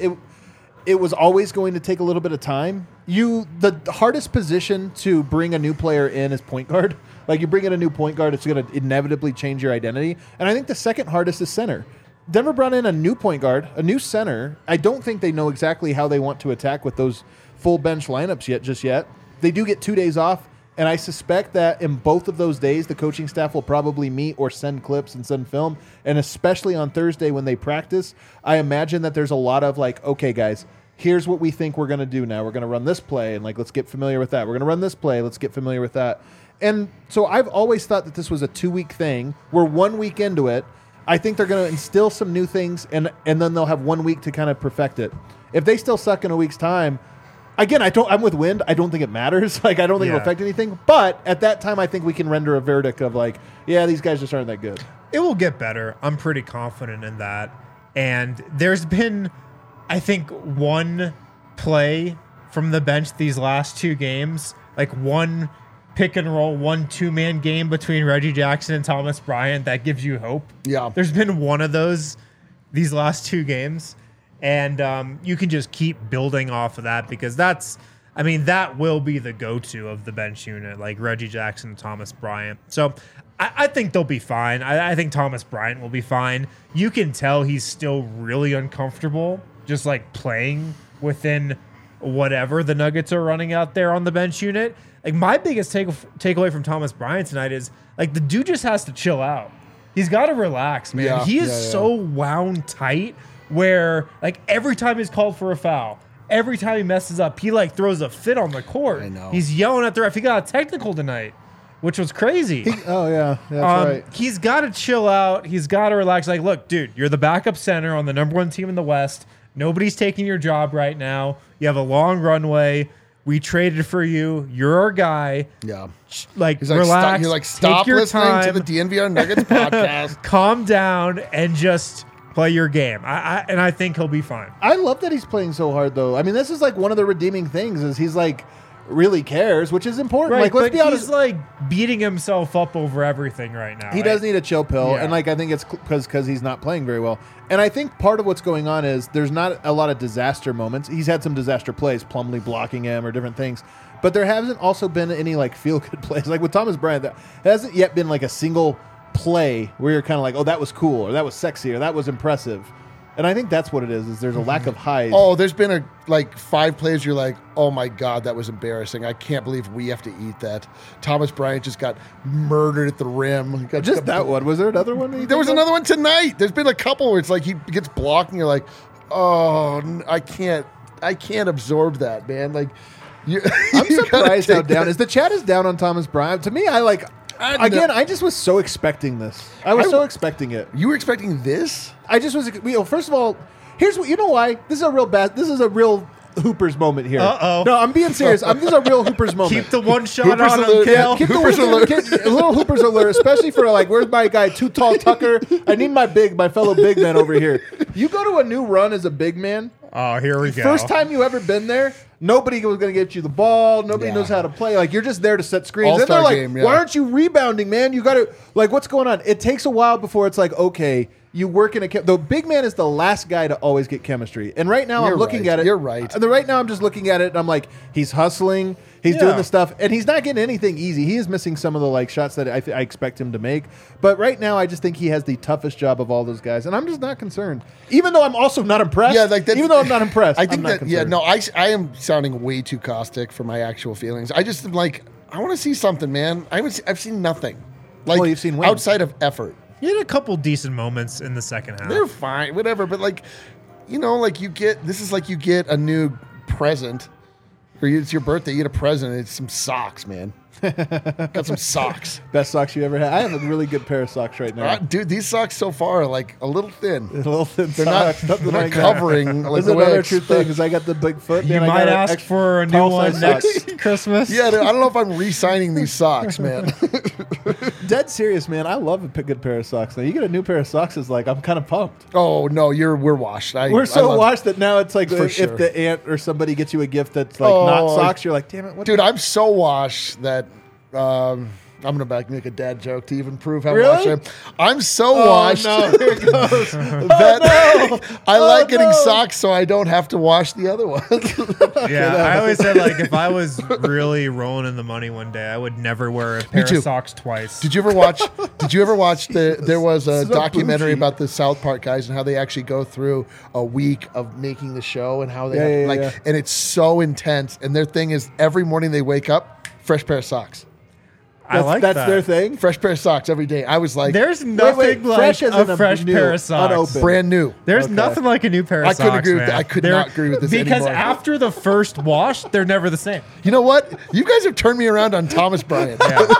it was always going to take a little bit of time. The hardest position to bring a new player in is point guard. Like you bring in a new point guard, it's going to inevitably change your identity. And I think the second hardest is center. Denver brought in a new point guard, a new center. I don't think they know exactly how they want to attack with those full bench lineups just yet. They do get 2 days off, and I suspect that in both of those days, the coaching staff will probably meet or send clips and send film. And especially on Thursday when they practice, I imagine that there's a lot of like, okay, guys, here's what we think we're going to do now. We're going to run this play, and like, let's get familiar with that. We're going to run this play. Let's get familiar with that. And so I've always thought that this was a 2-week thing. We're 1 week into it. I think they're going to instill some new things, and then they'll have 1 week to kind of perfect it. If they still suck in a week's time, again, I'm with Wind. I don't think it matters. Like, I don't think it'll affect anything. But at that time, I think we can render a verdict of like, yeah, these guys just aren't that good. It will get better. I'm pretty confident in that. And there's been, I think, one play from the bench these last 2 games, like one pick and roll, 1-2-man game between Reggie Jackson and Thomas Bryant that gives you hope. Yeah. There's been one of those these last 2 games. And you can just keep building off of that because that will be the go-to of the bench unit, like Reggie Jackson and Thomas Bryant. So I think they'll be fine. I think Thomas Bryant will be fine. You can tell he's still really uncomfortable just like playing within whatever the Nuggets are running out there on the bench unit. Like my biggest takeaway from Thomas Bryant tonight is like the dude just has to chill out. He's got to relax, man. Yeah, he is so wound tight where like every time he's called for a foul, every time he messes up, he like throws a fit on the court. I know. He's yelling at the ref. He got a technical tonight. which was crazy. Oh yeah, that's right. He's got to chill out. He's got to relax. Like, look, dude, you're the backup center on the number 1 team in the West. Nobody's taking your job right now. You have a long runway. We traded for you. You're our guy. Yeah. Like, He's like, relax. You're like, stop take your listening time, to the DNVR Nuggets podcast. calm down, and just play your game. I think he'll be fine. I love that he's playing so hard, though. I mean, this is like one of the redeeming things is he's like really cares, which is important. Right, Like, let's but be honest. he's like beating himself up over everything right now. He right? does need a chill pill, Yeah. and like I think it's because he's not playing very well. And I think part of what's going on is there's not a lot of disaster moments. He's had some disaster plays, Plumlee blocking him or different things, but there hasn't also been any like feel good plays. Like with Thomas Bryant, there hasn't yet been like a single play where you're kind of like, oh, that was cool, or that was sexy, or that was impressive. And I think that's what it is there's a lack of highs. Oh, there's been like 5 plays you're like, oh my God, that was embarrassing. I can't believe we have to eat that. Thomas Bryant just got murdered at the rim. Just that one. Was there another one? There was another one tonight. There's been a couple where it's like he gets blocked and you're like, oh, I can't absorb that, man. Like, I'm surprised how down is the chat is down on Thomas Bryant. To me, I just was so expecting this. I was so expecting it. You were expecting this? I just was. First of all, here's what you know why this is a real Hoopers moment here. Uh-oh. No, I'm being serious. This is a real Hoopers moment. Keep the one shot Hoopers on him, alert. Kale. Keep Hoopers alert. a little Hoopers alert, especially for like, where's my guy, Too Tall Tucker? I need my fellow big man over here. You go to a new run as a big man. Oh, here we go. First time you ever been there, nobody was going to get you the ball. Nobody Yeah. knows how to play. Like, you're just there to set screens. All-star And they're like, game, yeah. why aren't you rebounding, man? You got to, like, what's going on? It takes a while before it's like, okay, you work in the big man is the last guy to always get chemistry. And right now You're I'm looking right. at it. You're right. Right now I'm just looking at it and I'm like, he's hustling. He's doing the stuff, and he's not getting anything easy. He is missing some of the like shots that I expect him to make. But right now, I just think he has the toughest job of all those guys, and I'm just not concerned. Even though I'm also not impressed. Yeah, like even though I'm not impressed, I think I'm not that, yeah, concerned. no, I am sounding way too caustic for my actual feelings. I just am like, I want to see something, man. I've seen nothing. Like, Well, you've seen wins. outside of effort. He had a couple decent moments in the second half. They're fine, whatever. But like, like you get a new present, or it's your birthday. You get a present. It's some socks, man. Got some socks. Best socks you ever had. I have a really good pair of socks right now. Dude, these socks so far are like a little thin. A little thin They're not, socks, nothing they're not like that. covering like This is the way I another true thing expect. because I got the big foot. You man. I might got ask extra for a new tall one size next socks. Christmas. Yeah, dude, I don't know if I'm re-signing these socks, man. Dead serious, man. I love a good pair of socks. Now you get a new pair of socks, is like I'm kind of pumped. Oh no, we're washed. We're so washed that now it's like For if sure. the aunt or somebody gets you a gift that's like not Oh, socks, you're like, damn it, what Dude, I'm so washed that I'm gonna make a dad joke to even prove how Really? washed I am. I'm so Oh, washed no, here it goes. that I like getting no. socks so I don't have to wash the other ones. Yeah, I always said like if I was really rolling in the money one day, I would never wear a pair too. of socks twice. Did you ever watch there was a So documentary bougie. about the South Park guys and how they actually go through a week of making the show and how they Yeah, have, yeah, like yeah. and it's so intense and their thing is every morning they wake up, fresh pair of socks. I like that's that. their thing. Fresh pair of socks every day. I was like There's nothing like fresh as in a a fresh new, pair of socks. unopened. brand new. There's Okay. nothing like a new pair of I socks. couldn't agree with man. that. I could They're- not agree with this because anymore. after the first wash, they're never the same. You know what? You guys have turned me around on Thomas Bryant.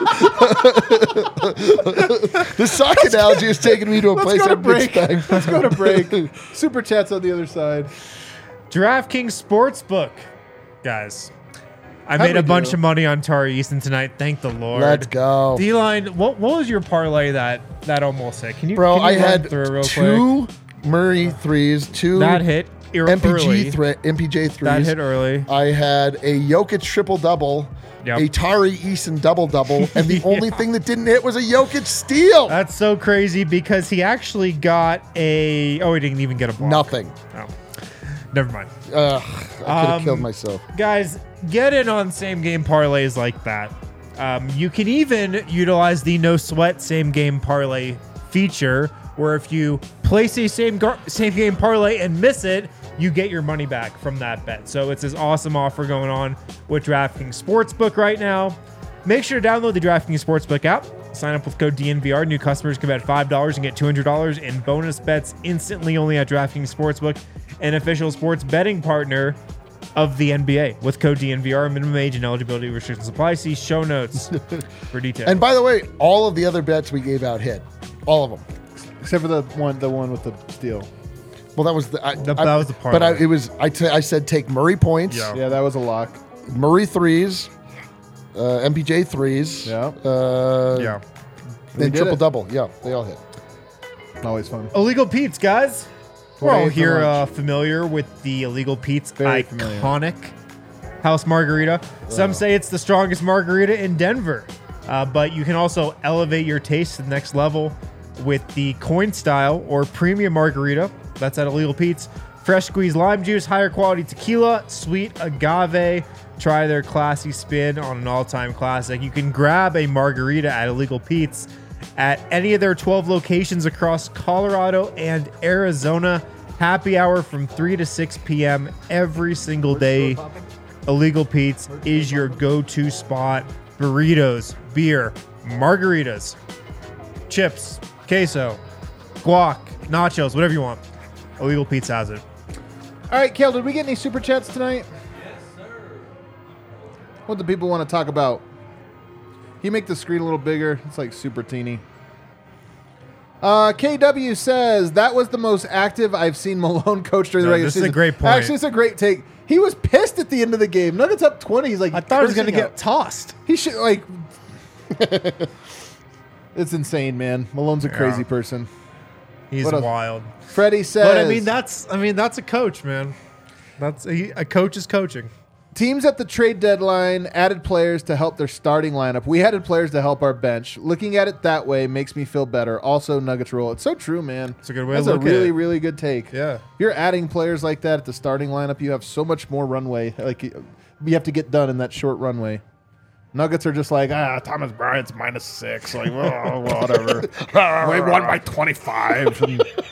The sock analogy has taken me to a place Let's go I to didn't break. expect. Let's go to break. Super chats on the other side. DraftKings Sportsbook, guys. I How'd made we a bunch do? of money on Tari Easton tonight. Thank the Lord. Let's go. D-line, what was your parlay that almost hit? Can you, Bro, can you I run had through it real quick? 2 Murray threes, 2 That hit early. MPJ threes. That hit early. I had a Jokic triple-double, Yep. a Tari Eason double-double, and the only thing that didn't hit was a Jokic steal. That's so crazy because he actually got a... Oh, he didn't even get a block. Nothing. Oh. Never mind. I could have killed myself. Guys, get in on same game parlays like that. You can even utilize the no sweat same game parlay feature, where if you place a same game parlay and miss it, you get your money back from that bet. So it's this awesome offer going on with DraftKings Sportsbook right now. Make sure to download the DraftKings Sportsbook app. Sign up with code DNVR. New customers can bet $5 and get $200 in bonus bets instantly only at DraftKings Sportsbook, an official sports betting partner of the NBA with code DNVR. Minimum age and eligibility restrictions apply. See show notes for details. And by the way, all of the other bets we gave out hit. All of them. Except for the one with the steal. Well, that was the that was the part. But I said take Murray points, Yeah. Yeah, that was a lock. Murray threes, MPJ threes, Yeah. yeah. We then did triple it. double. Yeah, they all hit. Always fun. Illegal Pete's, guys. We're 28 all for here lunch. familiar with the Illegal Pete's Very familiar. iconic house margarita. Some say it's the strongest margarita in Denver, but you can also elevate your taste to the next level with the coin style or premium margarita. That's at Illegal Pete's. Fresh squeezed lime juice, higher quality tequila, sweet agave. Try their classy spin on an all-time classic. You can grab a margarita at Illegal Pete's at any of their 12 locations across Colorado and Arizona. Happy hour from 3 to 6 p.m. every single day. Illegal Pete's is your go-to spot. Burritos, beer, margaritas, chips, queso, guac, nachos, whatever you want. Illegal Pete's has it. All right, Kale, did we get any super chats tonight? Yes, sir. What do people want to talk about? Can you make the screen a little bigger? It's like super teeny. KW says, that was the most active I've seen Malone coach during the No, regular this is a season. great point. Actually, it's a great take. He was pissed at the end of the game. Nuggets up 20. He's like, I thought he was going to cursing get out. tossed. He should, like... It's insane, man. Malone's a crazy person. He's What else? wild. Freddie says... But that's a coach, man. A coach is coaching. Teams at the trade deadline added players to help their starting lineup. We added players to help our bench. Looking at it that way makes me feel better. Also, Nuggets rule. It's so true, man. It's a good way That's to look a really, at it. really good take. Yeah. If you're adding players like that at the starting lineup, you have so much more runway. Like you have to get done in that short runway. Nuggets are just like, Thomas Bryant's -6. Like, oh, whatever. We won by 25.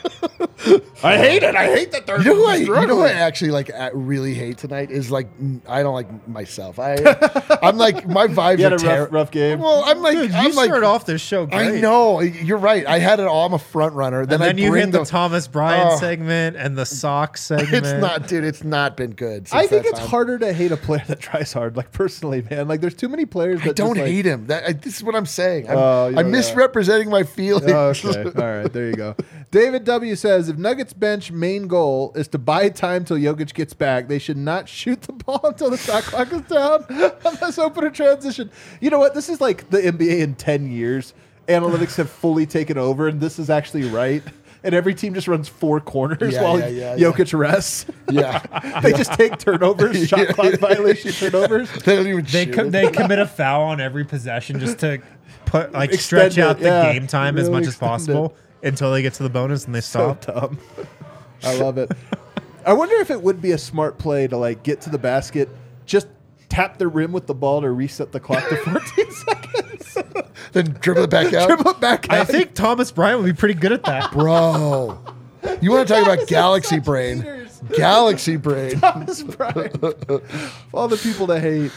I hate it. I hate that they're You know who I struggling. actually really hate tonight is like I don't like myself. I'm like my vibes You had are a rough game. Well, I'm like Dude, you I'm like started off this show great. I know you're right. I had it all. I'm a front runner. And then I you bring hit the Thomas Bryant segment and the sock segment. It's not, dude. It's not been good. I since think that it's time. harder to hate a player that tries hard. Like personally, man. Like there's too many players that I don't just, like, hate him. This is what I'm saying. I'm, Oh, yeah, I'm misrepresenting my feelings. Oh, okay. All right. There you go. David W. says, if Nuggets bench main goal is to buy time till Jokic gets back, they should not shoot the ball until the shot clock is down unless open a transition. You know what? This is like the NBA in 10 years. Analytics have fully taken over, and this is actually right. And every team just runs 4 corners while Jokic rests. Yeah. They just take turnovers, shot clock violation turnovers. They don't even They shoot. they commit a foul on every possession just to put Extend stretch out it, the yeah. game time as Really much as extend possible until they get to the bonus and they So stop. dumb. I love it. I wonder if it would be a smart play to like get to the basket, just tap the rim with the ball to reset the clock to 14 seconds. Then dribble it back out. Dribble it back out. I think Thomas Bryant would be pretty good at that. Bro. You want to talk about galaxy such brain? haters. Galaxy brain. Thomas Bryant. All the people that hate.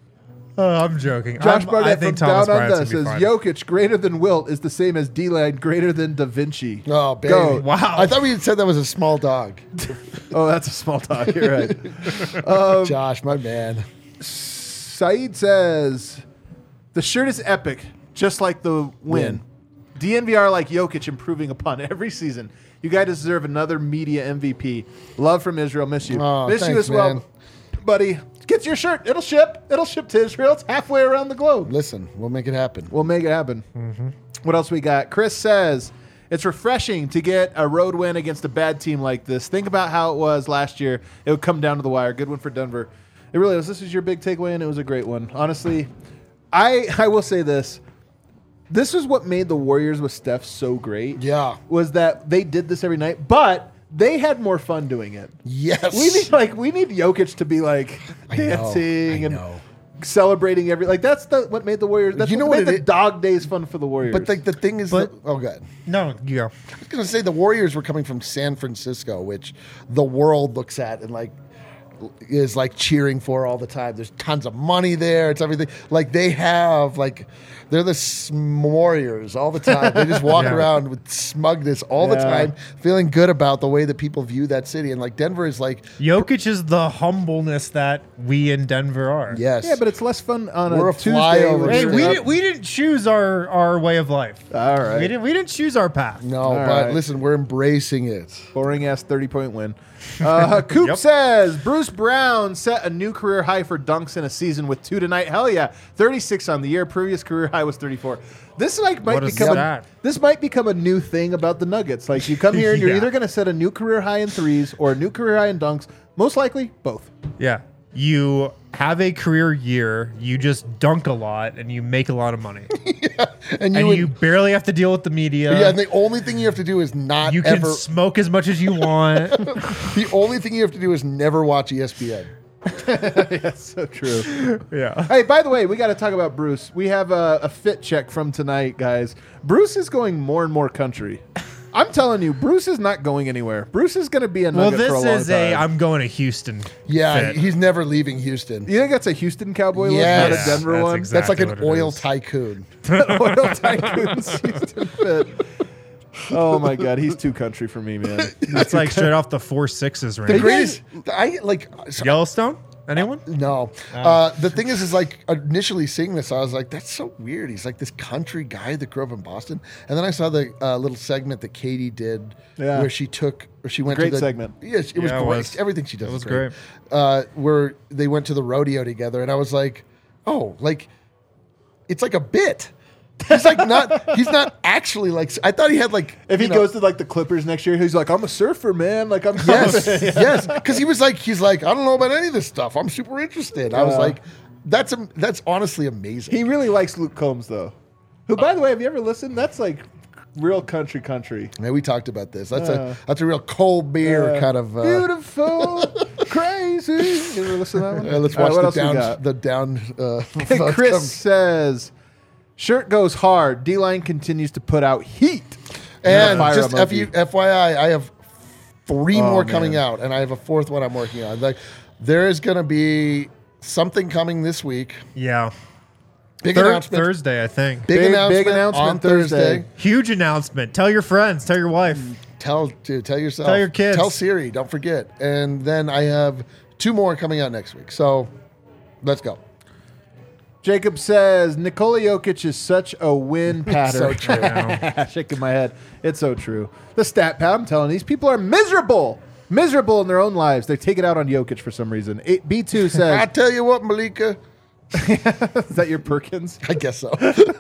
I'm joking. Josh I Barnett from think Thomas Down Bryant's Under gonna be says fine. Jokic greater than Wilt is the same as D-Line greater than Da Vinci. Oh, baby. Go. Wow. I thought we had said that was a small dog. Oh, that's a small talk. You're right. Josh, my man. Saeed says the shirt is epic, just like the win. DNVR like Jokic improving upon every season. You guys deserve another media MVP. Love from Israel. Miss you. Oh, Miss you thanks, as well, man. buddy. Get your shirt. It'll ship. It'll ship to Israel. It's halfway around the globe. Listen, we'll make it happen. We'll make it happen. What else we got? Chris says, it's refreshing to get a road win against a bad team like this. Think about how it was last year. It would come down to the wire. Good one for Denver. It really was. This is your big takeaway, and it was a great one. Honestly, I will say this. This is what made the Warriors with Steph so great. Yeah. Was that they did this every night, but they had more fun doing it. Yes. We need Jokic to be like I know, dancing I and know. celebrating every what made the Warriors. That's You know what what made it the is? dog days fun for the Warriors. But the thing is, But- oh, God. No, you go. I was going to say the Warriors were coming from San Francisco, which the world looks at and like, is like cheering for all the time. There's tons of money there. It's everything. Like they have like they're the warriors all the time. They just walk around with smugness all the time, feeling good about the way that people view that city. And like Denver is like Jokic is the humbleness that we in Denver are. yes, Yeah, but it's less fun on We're a a Tuesday. flyover. when Hey, you're we didn't choose our way of life. All right. We didn't choose our path. no, All but right. listen, we're embracing it. boring ass 30-point win. Coop says Bruce Brown set a new career high for dunks in a season with 2 tonight. Hell yeah, 36 on the year. Previous career high was 34. This like might What a become stat. this might become a new thing about the Nuggets. Like you come here and you're Yeah. either going to set a new career high in threes or a new career high in dunks. Most likely both. Yeah. You have a career year, you just dunk a lot, and you make a lot of money. And And would- you barely have to deal with the media. yeah, and the only thing you have to do is not You can ever. smoke as much as you want. The only thing you have to do is never watch ESPN. That's so true. Yeah. Hey, by the way, we got to talk about Bruce. We have a fit check from tonight, guys. Bruce is going more and more country. I'm telling you, Bruce is not going anywhere. Bruce is going to be a Well, Nugget for a this long is time. I'm going to Houston. Yeah, fit. he's never leaving Houston. You think that's a Houston Cowboy Yes. look, not a Denver That's one? exact- That's like Exactly an what it oil is. tycoon. Oil Tycoon's Houston fit. Oh my God, he's too country for me, man. That's like straight off the 4.6s The range. greatest, I like. So, Yellowstone? Anyone? no, the thing is like initially seeing this, I was like, that's so weird. He's like this country guy that grew up in Boston, and then I saw the little segment that Katie did Yeah. where she went Great to the segment. Yes, it was Yeah, it great. was. Everything she does It was is great. Where they went to the rodeo together, and I was like, oh, like it's like a bit. He's like not. He's not actually like. I thought he had like. If he you know- goes to like the Clippers next year, he's like, I'm a surfer, man. Like I'm Yes, yes, because he's like, I don't know about any of this stuff. I'm super interested. I was Yeah. like, that's honestly amazing. He really likes Luke Combs though. Who, by the way, have you ever listened? That's like real country. Yeah, we talked about this. That's a real cold beer kind of. Beautiful, crazy. You ever listen to that one? Let's All right, watch what else we got? the down. Chris says, shirt goes hard. D-line continues to put out heat. and Fire just emoji. FYI, I have 3 more man. coming out, and I have a 4th one I'm working on. Like, there is going to be something coming this week. Yeah. Big announcement. Thursday, I think. Big announcement, announcement on Thursday. Huge announcement. Tell your friends. Tell your wife. Tell yourself. Tell your kids. Tell Siri. Don't forget. And then I have 2 more coming out next week. So let's go. Jacob says, Nikola Jokic is such a win pattern. So true. Shaking my head. It's so true. The stat pad, I'm telling you, these people are miserable. Miserable in their own lives. They take it out on Jokic for some reason. B2 I says, tell you what, Malika. is that your Perkins? I guess so.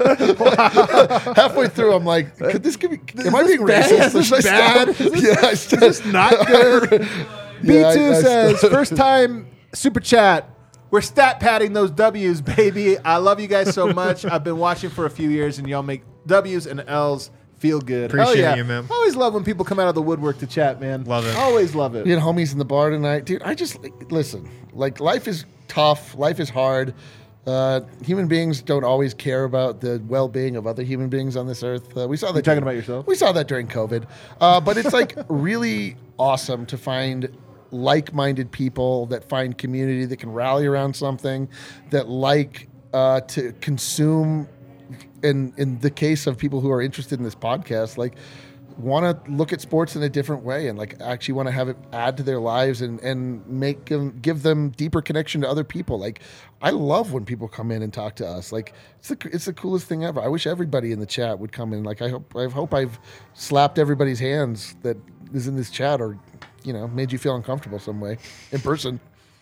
Halfway through, I'm like, could this give me? Am I being bad? racist? Is this Should I bad? stop? Is Yeah, I start, Not good. B2 I says, first time super chat. We're stat padding those W's, baby. I love you guys so much. I've been watching for a few years, and y'all make W's and L's feel good. Hell Appreciate yeah. you, man. Always love when people come out of the woodwork to chat, man. Love it. Always love it. We had homies in the bar tonight, dude. I just listen. Like, life is tough. Life is hard. Human beings don't always care about the well-being of other human beings on this earth. We saw that. You talking about yourself? We saw that during COVID. But it's like really awesome to find like-minded people that find community that can rally around something, that like to consume. In the case of people who are interested in this podcast, like want to look at sports in a different way and like actually want to have it add to their lives and make them, give them deeper connection to other people. Like I love when people come in and talk to us. Like it's the coolest thing ever. I wish everybody in the chat would come in. Like I hope I've slapped everybody's hands that is in this chat or made you feel uncomfortable some way in person.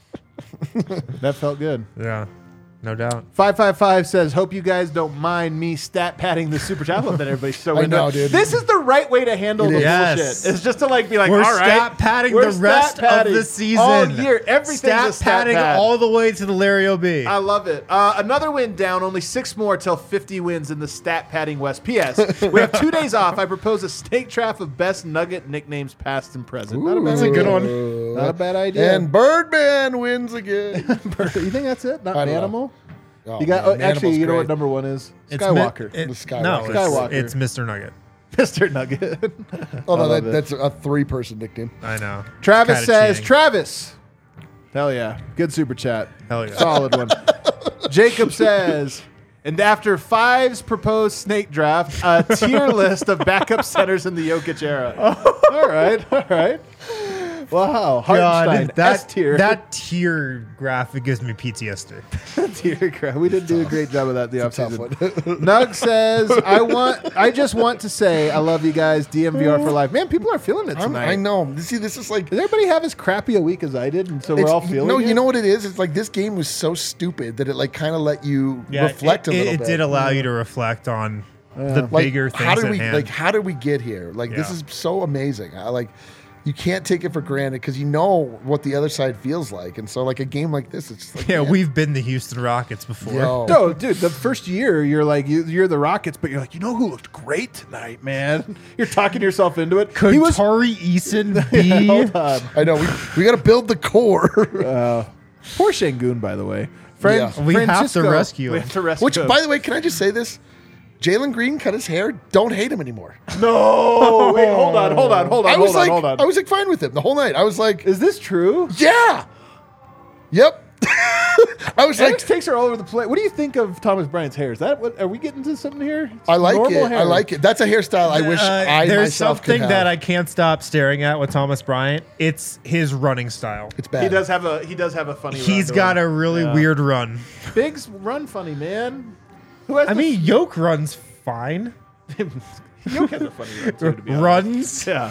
That felt good. Yeah. No doubt. 555 says, hope you guys don't mind me stat padding the super chat. I love that everybody's so I into know, it. dude. This is the right way to handle the Yes. bullshit. It's just to like be like, We're all right. stat padding we're the rest stat padding of the season. all year. Everything's stat a stat padding pad. all the way to the Larry O.B. I love it. Another win down, only 6 more till 50 wins in the stat padding West. P.S. We have 2 days off. I propose a snake draft of best Nugget nicknames past and present. Not a bad That's a idea. good one. Not a bad idea. And Birdman wins again. you think that's it? Not I don't know. Animal? Oh, You got man, actually. Manimal's You know what great. number 1 is? It's Skywalker. The Skywalker. No, Skywalker. it's Mr. Nugget. Mr. Nugget. Oh no, love it. that's a 3-person nickname. I know. Travis Kinda says, cheating. Travis, Hell yeah. Good super chat. Hell yeah. Solid one. Jacob says, and after Five's proposed snake draft, a tier list of backup centers in the Jokic era. All right. Wow. Hartenstein, S tier. That tier graphic gives me PTSD. Tier crap. We didn't do a great job of that the Tough one. offseason. Nug says, I just want to say I love you guys. DMVR for life. Man, people are feeling it tonight. I know. See, this is like. Does everybody have as crappy a week as I did, and so we're all feeling No, it? you know what it is? It's like this game was so stupid that it like kind of let you reflect a little It bit. did allow you to reflect on the Like, bigger things how did at we hand. like? How did we get here? Like this Yeah. is so amazing. You can't take it for granted because you know what the other side feels like, and so like a game like this, it's just like yeah, man, we've been the Houston Rockets before. yo. No, dude, the first year you're like you're the Rockets, but you're like, you know who looked great tonight, man? You're talking yourself into it. Could He was Tari Eason be? hold on. I know we got to build the core. Poor Şengün, by the way. Yeah. We have to Francisco- rescue We him. have to rescue Which, him. by the way, can I just say this? Jalen Green cut his hair. Don't hate him anymore. no, wait, hold on. I was like, hold on. I was like fine with him the whole night. I was like, Is this true? yeah, yep. I was like, Alex takes her all over the place. What do you think of Thomas Bryant's hair? Is that what? Are we getting to something here? It's I like normal it. hair. I like it. That's a hairstyle I wish I There's myself could something have. that I can't stop staring at with Thomas Bryant. It's his running style. It's bad. He does have a funny. He's run got to a him. really Yeah. weird run. Biggs run funny, man. Who has? I mean, Yoke runs fine. Yoke has a funny run too. To be honest. Runs. Yeah.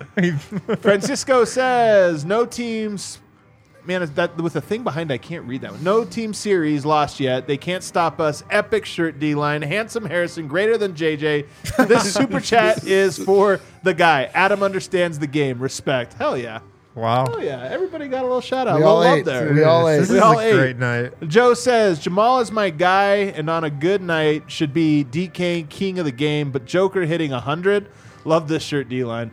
Francisco says no teams. Man, is that with the thing behind? I can't read that one. No team series lost yet. They can't stop us. Epic shirt D line. Handsome Harrison, greater than JJ. This super chat is for the guy. Adam understands the game. Respect. Hell yeah. Wow. Oh yeah. Everybody got a little shout out. We A little all love ate. there. We all ate. This We is all a ate. great night. Joe says Jamal is my guy, and on a good night should be DK king of the game. But Joker hitting 100. Love this shirt, D line.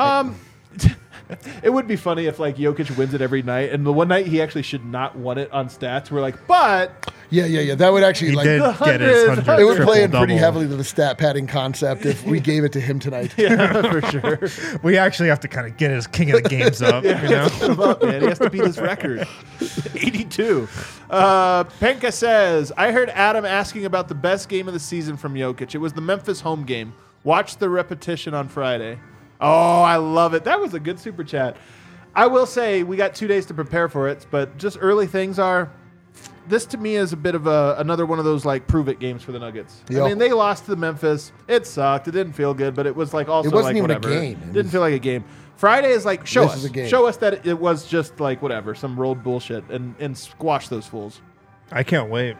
It would be funny if like Jokic wins it every night, and the one night he actually should not won it on stats. We're like, but Yeah. That would actually He like. did the get his 100. 100 It would play in triple-double. pretty heavily to the stat padding concept if we gave it to him tonight. yeah, for sure. We actually have to kind of get his king of the games up. You know. Put him up, man. He has to beat his record. 82. Penka says, I heard Adam asking about the best game of the season from Jokic. It was the Memphis home game. Watch the repetition on Friday. Oh, I love it. That was a good super chat. I will say we got 2 days to prepare for it, but just early things are. This to me is a bit of another one of those like prove it games for the Nuggets. Yep. I mean, they lost to Memphis. It sucked. It didn't feel good, but it was like also It wasn't like even a whatever. game. It Didn't feel like a game. Friday is like show This us, is a game. show us that it was just like whatever, some rolled bullshit, and squash those fools. I can't wait.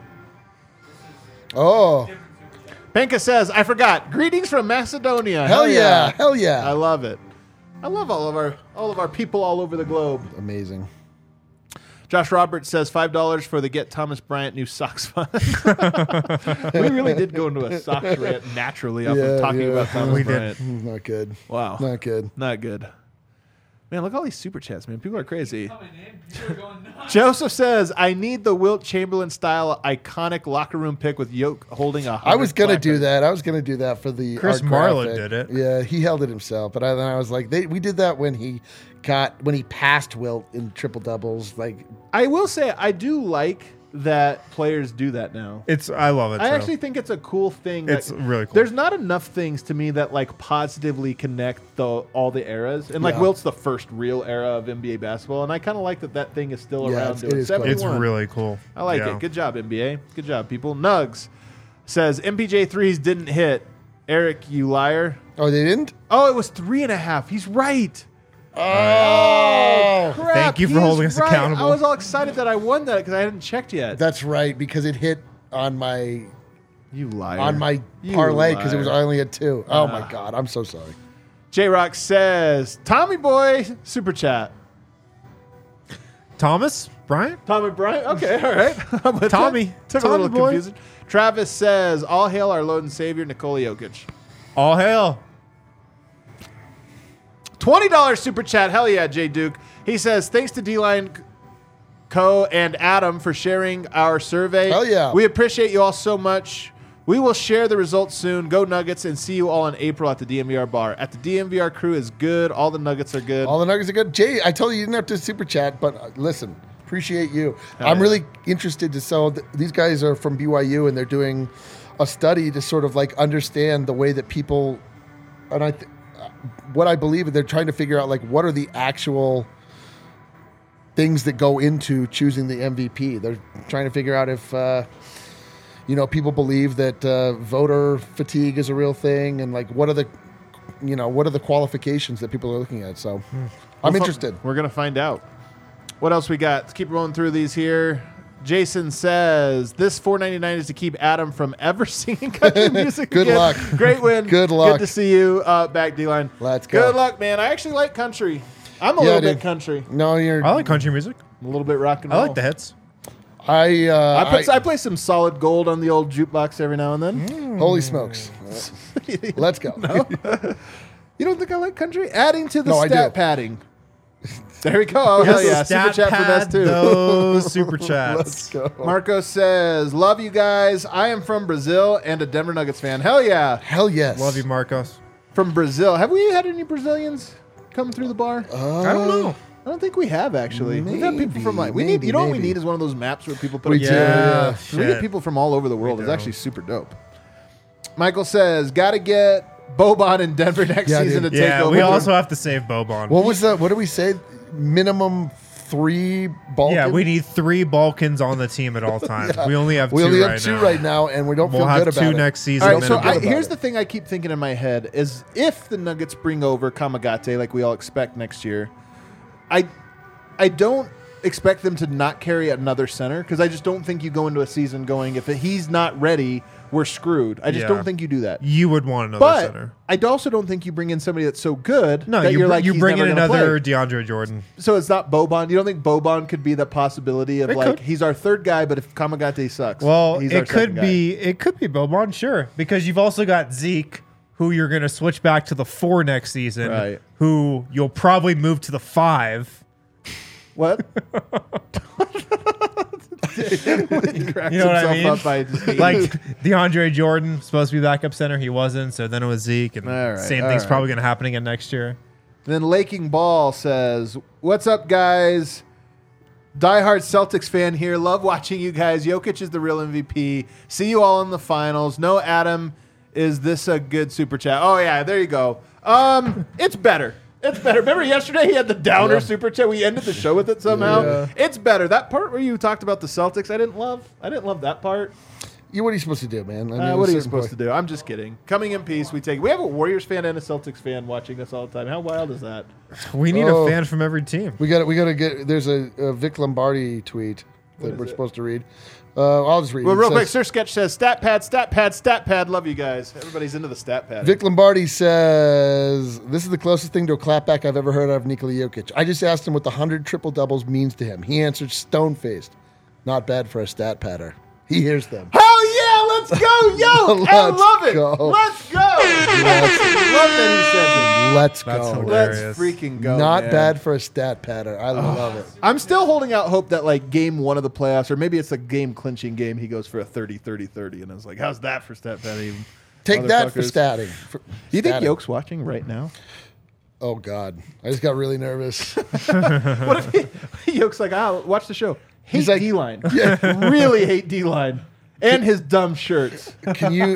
Oh, Penka says, I forgot. Greetings from Macedonia. hell yeah. Hell I yeah. love it. I love all of our people all over the globe. Amazing. Josh Roberts says $5 for the Get Thomas Bryant new socks fund. We really did go into a socks rant naturally off Yeah, of talking yeah. about Thomas We did. Bryant. Not good. Wow. Not good. Not good. Man, look at all these super chats, man. People are crazy. Joseph says, I need the Wilt Chamberlain style iconic locker room pick with Yoke holding a I was gonna 100 do plaque. that. I was gonna do that for the Chris art Marlin graphic. did it. Yeah, he held it himself. But then I was like, we did that when he passed Wilt in triple doubles. Like, I will say, I do like that players do that now. I love it. I too. actually think it's a cool thing. It's that- really cool. There's not enough things to me that like positively connect all the eras, and like Yeah. Wilt's the first real era of NBA basketball, and I kind of like that thing is still Yeah, around. it doing is cool. It's 71. really cool. I like Yeah. it. Good job, NBA. Good job, people. Nugs says MPJ threes didn't hit. Eric, you liar. oh, they didn't. Oh, it was 3.5. He's right. Oh, Crap, Thank you for he's holding us right. accountable. I was all excited that I won that because I hadn't checked yet. that's right because it hit on my You liar. You parlay because it was liar. I only had two. Oh my god, I'm so sorry. J Rock says Tommy Boy super chat. Thomas Bryant. Tommy Bryant. Okay, all right. I'm with Tommy. that. Took Tommy a little boy. confusion. Travis says, "All hail our Lord and Savior Nikola Jokic." All hail. $20 super chat. Hell yeah, Jay Duke. He says, "Thanks to D-Line Co and Adam for sharing our survey. Hell yeah. We appreciate you all so much. We will share the results soon. Go Nuggets and see you all in April at the DMVR bar. At the DMVR crew is good. All the Nuggets are good. All the Nuggets are good. Jay, I told you didn't have to super chat, but listen, Appreciate you. I'm really interested to so these guys are from BYU and they're doing a study to sort of like understand the way that people and what I believe they're trying to figure out like what are the actual things that go into choosing the MVP. They're trying to figure out if people believe that voter fatigue is a real thing and like what are the qualifications that people are looking at. So I'm interested. We're going to find out. What else we got? Let's keep rolling through these here. Jason says, this $4.99 is to keep Adam from ever singing country music Good again. luck. Great win. Good luck. Good to see you back, D-Line. Let's go. Good luck, man. I actually like country. I'm a little bit country. No, I like country music. A little bit rock and I roll. like the hits. I play some solid gold on the old jukebox every now and then. Holy smokes. Let's go. You don't think I like country? Adding to the No, I stat do. padding. There we go. Oh, hell yeah. Super Stat chat from pad S2. those super chats. Let's go. Marco says, love you guys. I am from Brazil and a Denver Nuggets fan. Hell yeah. Hell yes. Love you, Marcos. From Brazil. Have we had any Brazilians come through the bar? I don't know. I don't think we have, actually. We've had people from like, maybe, you know what we maybe. need is one of those maps where people put We a do, Yeah, We get people from all over the world. It's actually super dope. Michael says, got to get Boban in Denver next Yeah, season dude. to take Yeah, over. we also have to save Boban. What was that? What did we say? Minimum 3 Balkans? Yeah, we need 3 Balkans on the team at all times. We only have 2 We only right have 2 now. right now, and we don't We'll feel have good 2 about it. next season. All right, and so then good about here's it. the thing I keep thinking in my head is if the Nuggets bring over Kamagate like we all expect next year, I don't expect them to not carry another center because I just don't think you go into a season going if he's not ready, we're screwed. I just Yeah. don't think you do that. you would want another But center. I also don't think you bring in somebody that's so good No, that you, you're like you he's bring in never gonna another play. DeAndre Jordan. So it's not Boban. You don't think Boban could be the possibility of It like could. he's our third guy, but if Kamagate sucks, Well, he's our it could second guy. be Boban, sure, because you've also got Zeke, who you're going to switch back to the 4 next season, Right. who you'll probably move to the 5. What? You know what I mean? Like DeAndre Jordan supposed to be backup center, he wasn't, so then it was Zeke, and All right, same all thing's right. probably going to happen again next year. Then Laking Ball says, "What's up, guys? Diehard Celtics fan here. Love watching you guys. Jokic is the real MVP. See you all in the finals. No, Adam, is this a good super chat? Oh yeah, there you go. It's better. It's better. Remember yesterday he had the downer super chat. We ended the show with it somehow. Yeah. It's better. That part where you talked about the Celtics, I didn't love. I didn't love that part. What are you supposed to do, man? What are you supposed to do? I'm just kidding. Coming in peace, we have a Warriors fan and a Celtics fan watching us all the time. How wild is that? We need Oh. a fan from every team. We got to get. There's a Vic Lombardi tweet that we're supposed to read. I'll just read. Well, it. It real quick, says, Sir Sketch says, stat pad, stat pad, stat pad. Love you guys. Everybody's into the stat pad. Vic Lombardi says, "This is the closest thing to a clapback I've ever heard out of Nikola Jokic. I just asked him what the 100 triple doubles means to him. He answered stone-faced. Not bad for a stat padder. He hears them. Hell yeah, let's go, yo! I Let's love it. go. Let's go. Love that he says Let's That's go. it. hilarious. Let's freaking go. Not man. bad for a stat padder. I love it. I'm still holding out hope that like game 1 of the playoffs, or maybe it's a game clinching game, he goes for a 30-30-30. And I was like, how's that for stat padding? Take that for motherfuckers? statting. Do you think Statting. Yoke's watching right now? Oh, God. I just got really nervous. What if Yoke's like, watch the show. Hate He's like- D-line. Really hate D-line. And his dumb shirts. Can you,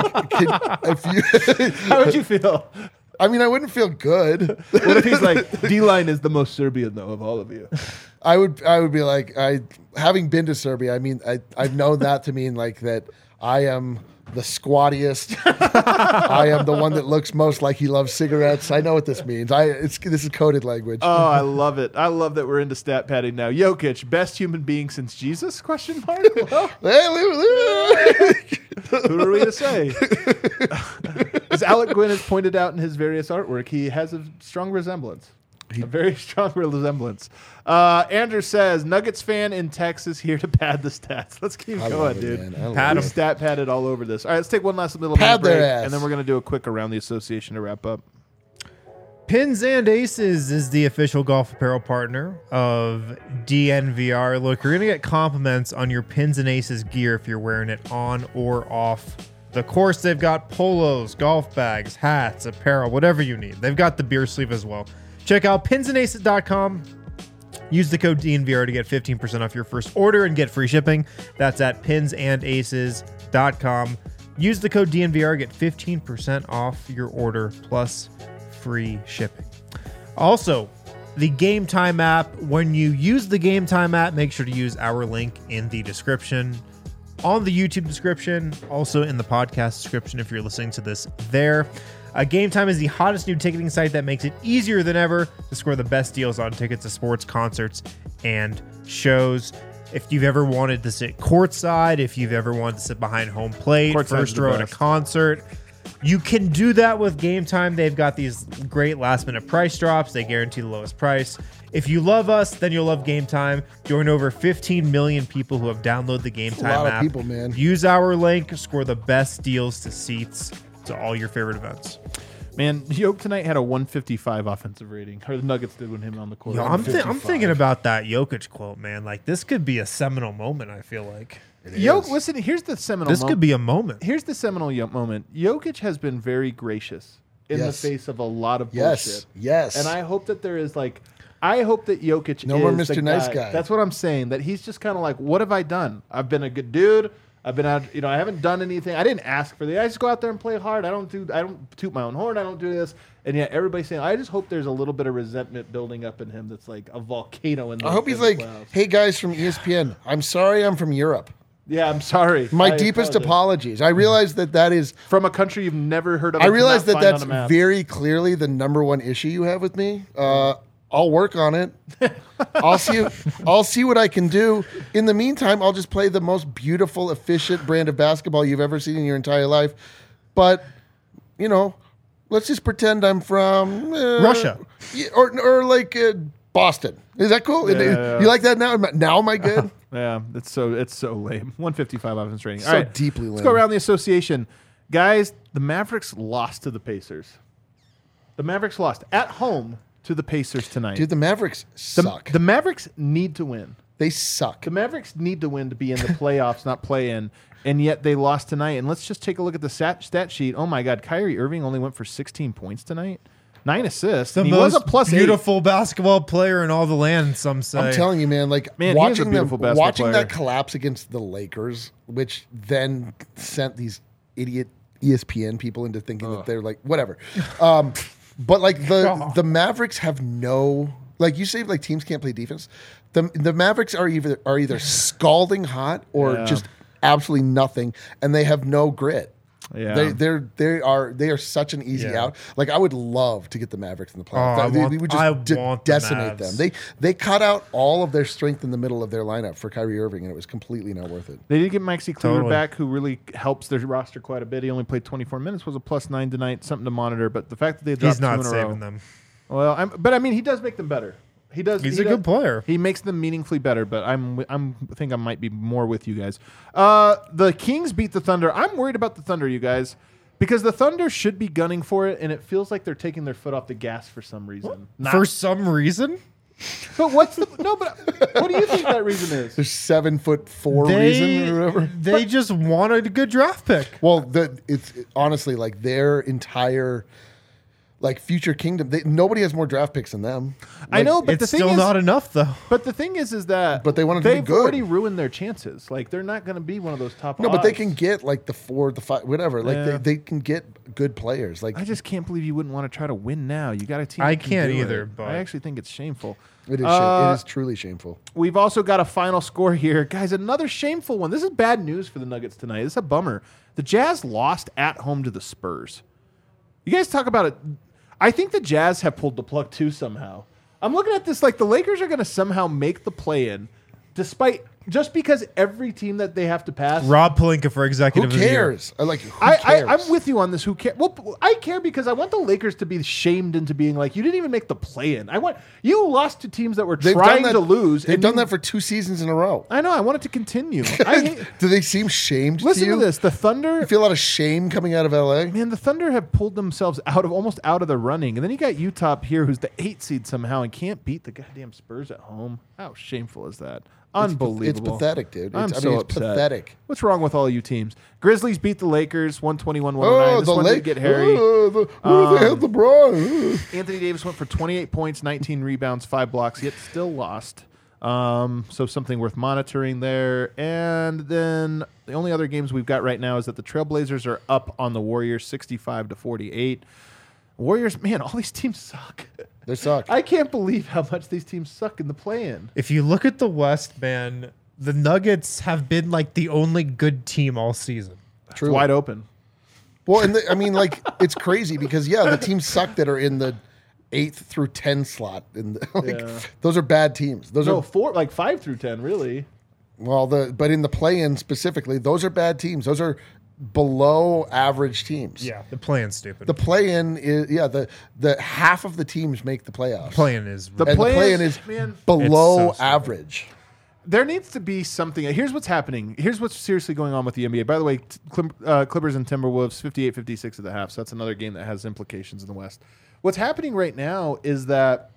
if you, How would you feel? I mean, I wouldn't feel good. What if he's like, D-line is the most Serbian, though, of all of you? I would be like, having been to Serbia, I mean, I've known that to mean like that I am the squattiest. I am the one that looks most like he loves cigarettes. I know what this means. This is coded language. Oh, I love it. I love that we're into stat padding now. Jokic, best human being since Jesus? Question mark. Well, who are we to say? As Alec Gwynn has pointed out in his various artwork, he has a strong resemblance. A very strong resemblance. Andrew says, Nuggets fan in Texas here to pad the stats. Let's keep I going, love it, dude. man. I love Pad it. We stat padded all over this. All right, let's take one last little Pad minute their break, ass. and then we're going to do a quick around the association to wrap up. Pins and Aces is the official golf apparel partner of DNVR. Look, you're going to get compliments on your Pins and Aces gear if you're wearing it on or off the course. They've got polos, golf bags, hats, apparel, whatever you need. They've got the beer sleeve as well. Check out pinsandaces.com. Use the code DNVR to get 15% off your first order and get free shipping. That's at pinsandaces.com. Use the code DNVR, get 15% off your order plus free shipping. Also, the Game Time app. When you use the Game Time app, make sure to use our link in the description, on the YouTube description, also in the podcast description if you're listening to this there. Game Time is the hottest new ticketing site that makes it easier than ever to score the best deals on tickets to sports, concerts, and shows. If you've ever wanted to sit courtside, if you've ever wanted to sit behind home plate, Courtside's first the row at a best. concert, you can do that with Game Time. They've got these great last-minute price drops. They guarantee the lowest price. If you love us, then you'll love Game Time. Join over 15 million people who have downloaded the Game That's a Time lot of app. people, man. Use our link, score the best deals to seats to all your favorite events. Man, Yoke tonight had a 155 offensive rating. Or the Nuggets did when him on the court. Yo, I'm thinking about that Jokic quote, man. Like, this could be a seminal moment, I feel like. Yoke, listen, here's the seminal This moment. could be a moment. Here's the seminal moment. Jokic has been very gracious in the Yes. face of a lot of Yes. bullshit. Yes. And I hope that there is like, I hope that Jokic No is more the Mr. Nice Guy. That's what I'm saying. That he's just kind of like, what have I done? I've been a good dude. I've been out, I haven't done anything. I didn't ask for I just go out there and play hard. I don't toot my own horn. I don't do this. And yet everybody's saying, I just hope there's a little bit of resentment building up in him that's like a volcano in the I hope he's in the like, clouds. hey guys from ESPN, I'm sorry I'm from Europe. Yeah, I'm sorry. My I deepest apologize. apologies. I realize that is, From a country you've never heard of. I and realize cannot that find that's on a map. very clearly the number one issue you have with me. I'll work on it. I'll see what I can do. In the meantime, I'll just play the most beautiful, efficient brand of basketball you've ever seen in your entire life. But, let's just pretend I'm from Russia. Yeah, or like Boston. Is that cool? Yeah. You like that now? Now am I good? Yeah, it's so lame. 155 offense rating. So All right, deeply Let's lame. go around the association, guys. The Mavericks lost to the Pacers. The Mavericks lost at home to the Pacers tonight. Dude, the Mavericks the, suck. the Mavericks need to win. They suck. The Mavericks need to win to be in the playoffs, not play in. And yet they lost tonight. And let's just take a look at the stat sheet. Oh my God, Kyrie Irving only went for 16 points tonight, 9 assists. The And he was most a plus beautiful basketball player in all the land, some say. I'm telling you, man. Like Man, he is a watching them, beautiful basketball watching player. that collapse against the Lakers, which then sent these idiot ESPN people into thinking that they're like whatever. But like the Mavericks have no, like you say, like teams can't play defense. The Mavericks are either scalding hot or Yeah. just absolutely nothing, and they have no grit. Yeah. They are such an easy Yeah. out. Like I would love to get the Mavericks in the playoffs. I They want- would I just want the decimate Mavs. them. They cut out all of their strength in the middle of their lineup for Kyrie Irving, and it was completely not worth it. They did get Maxi Kleber Totally. back, who really helps their roster quite a bit. He only played 24 minutes, was a +9 tonight, something to monitor. But the fact that they dropped He's not two in a row, saving them. well, but I mean, he does make them better. He does. He's he a does- good player. He makes them meaningfully better. But I think I might be more with you guys. The Kings beat the Thunder. I'm worried about the Thunder, you guys, because the Thunder should be gunning for it, and it feels like they're taking their foot off the gas for some reason. Not- For some reason, but what's the no? But what do you think that reason is? There's 7'4" reason or whatever. they just wanted a good draft pick. Well, it's honestly like their entire like future kingdom. Nobody has more draft picks than them. I know, but It's the thing still is, not enough, though. But the thing is that But they wanted to be they've good. already ruined their chances. Like they're not going to be one of those top. No, but they odds. can get like the 4, the 5, whatever. Like Yeah. they can get good players. Like I just can't believe you wouldn't want to try to win now. You got a team. I that can can't do either, it. but- I actually think it's shameful. it is. It is truly shameful. We've also got a final score here, guys. Another shameful one. This is bad news for the Nuggets tonight. This is a bummer. The Jazz lost at home to the Spurs. You guys talk about it. I think the Jazz have pulled the plug too somehow. I'm looking at this like the Lakers are going to somehow make the play-in, despite just because every team that they have to pass. Rob Pelinka for Who executive of the year. cares? Who cares? I'm with you on this. Who cares? Well, I care because I want the Lakers to be shamed into being like, you didn't even make the play-in. I want you lost to teams that were trying to lose. They've and done you- that for 2 seasons in a row. I know. I want it to continue. I hate, Do they seem shamed listen to you? to this. The Thunder. You feel a lot of shame coming out of LA? Man, the Thunder have pulled themselves almost out of the running, and then you got Utah up here, who's the 8 seed somehow, and can't beat the goddamn Spurs at home. How shameful is that? It's Unbelievable. pathetic, dude. I'm It's so it's upset. pathetic. What's wrong with all you teams? Grizzlies beat the Lakers 121-109. Oh, This the one did Lake. get hairy. They had LeBron. Anthony Davis went for 28 points, 19 rebounds, 5 blocks, yet still lost. So something worth monitoring there. And then the only other games we've got right now is that the Trailblazers are up on the Warriors 65-48. Warriors, man, all these teams suck. They suck. I can't believe how much these teams suck in the play-in. If you look at the West, man, the Nuggets have been like the only good team all season. It's wide open. Well, and it's crazy because the teams suck that are in the 8th through 10 slot. Those are bad teams. Those are 5 through 10, really. but in the play-in specifically, those are bad teams. Those are below average teams. Yeah, the play-in's stupid. The play-in is the half of the teams make the playoffs. play-in is And the play-in is below It's so average. There needs to be something. Here's what's happening. Here's what's seriously going on with the NBA. By the way, Clippers and Timberwolves 58-56 at the half. So that's another game that has implications in the West. What's happening right now is that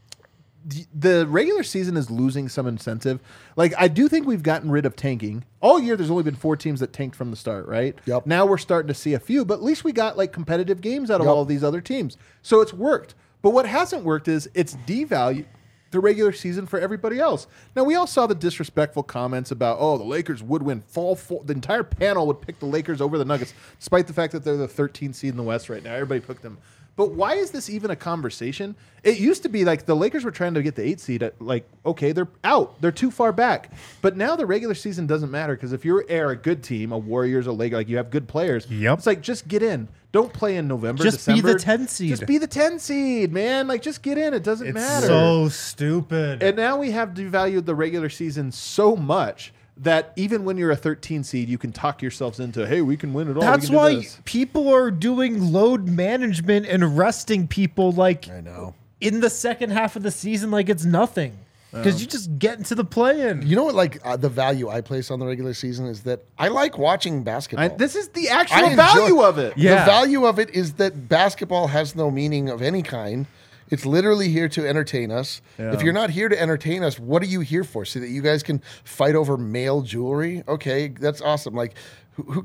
the regular season is losing some incentive. Like, I do think we've gotten rid of tanking. All year, there's only been 4 teams that tanked from the start, right? Yep. Now we're starting to see a few, but at least we got like competitive games out of Yep. all of these other teams. So it's worked. But what hasn't worked is it's devalued the regular season for everybody else. Now, we all saw the disrespectful comments about, the Lakers would win. The entire panel would pick the Lakers over the Nuggets, despite the fact that they're the 13th seed in the West right now. Everybody picked them. But why is this even a conversation? It used to be like the Lakers were trying to get the 8th seed. Okay, they're out. They're too far back. But now the regular season doesn't matter because if you're a good team, a Warriors, a Lakers, like you have good players, Yep. it's like just get in. Don't play in November, Just be December. the 10 seed. Just be the 10 seed, man. Like, just get in. It doesn't It's matter. so stupid. And now we have devalued the regular season so much that even when you're a 13 seed, you can talk yourselves into, hey, we can win it all. That's we can do why this. people are doing load management and resting people like I know. in the second half of the season like it's nothing. Because you just get into the play-in. You know what? The value I place on the regular season is that I like watching basketball. This is the I actual enjoy- value of it. Yeah. The value of it is that basketball has no meaning of any kind. It's literally here to entertain us. Yeah. If you're not here to entertain us, what are you here for? So that you guys can fight over male jewelry? Okay, that's awesome. Like who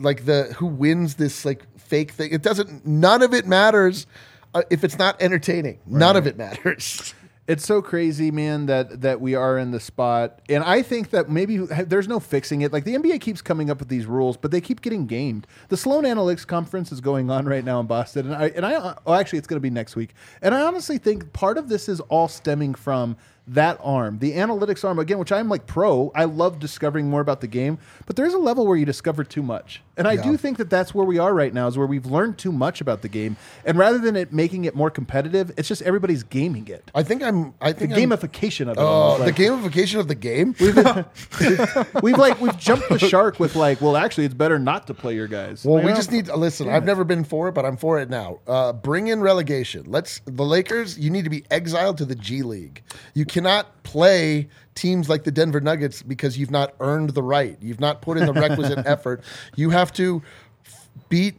wins this like fake thing? It doesn't. None of it matters if it's not entertaining. None of it matters. It's so crazy, man, that we are in the spot. And I think that maybe there's no fixing it. Like, the NBA keeps coming up with these rules, but they keep getting gamed. The Sloan Analytics Conference is going on right now in Boston. Actually, it's going to be next week. And I honestly think part of this is all stemming from that arm, the analytics arm, again, which I'm like pro. I love discovering more about the game, but there's a level where you discover too much. And I do think that that's where we are right now, is where we've learned too much about the game. And rather than it making it more competitive, it's just everybody's gaming it. I think The I'm gamification of it. Oh, almost. the gamification of the game. We've jumped the shark with actually, it's better not to play your guys. Well, You we know? just need to listen. I've never been for it, but I'm for it now. Bring in relegation. The Lakers. You need to be exiled to the G League. You cannot play teams like the Denver Nuggets because you've not earned the right. You've not put in the requisite effort. You have to beat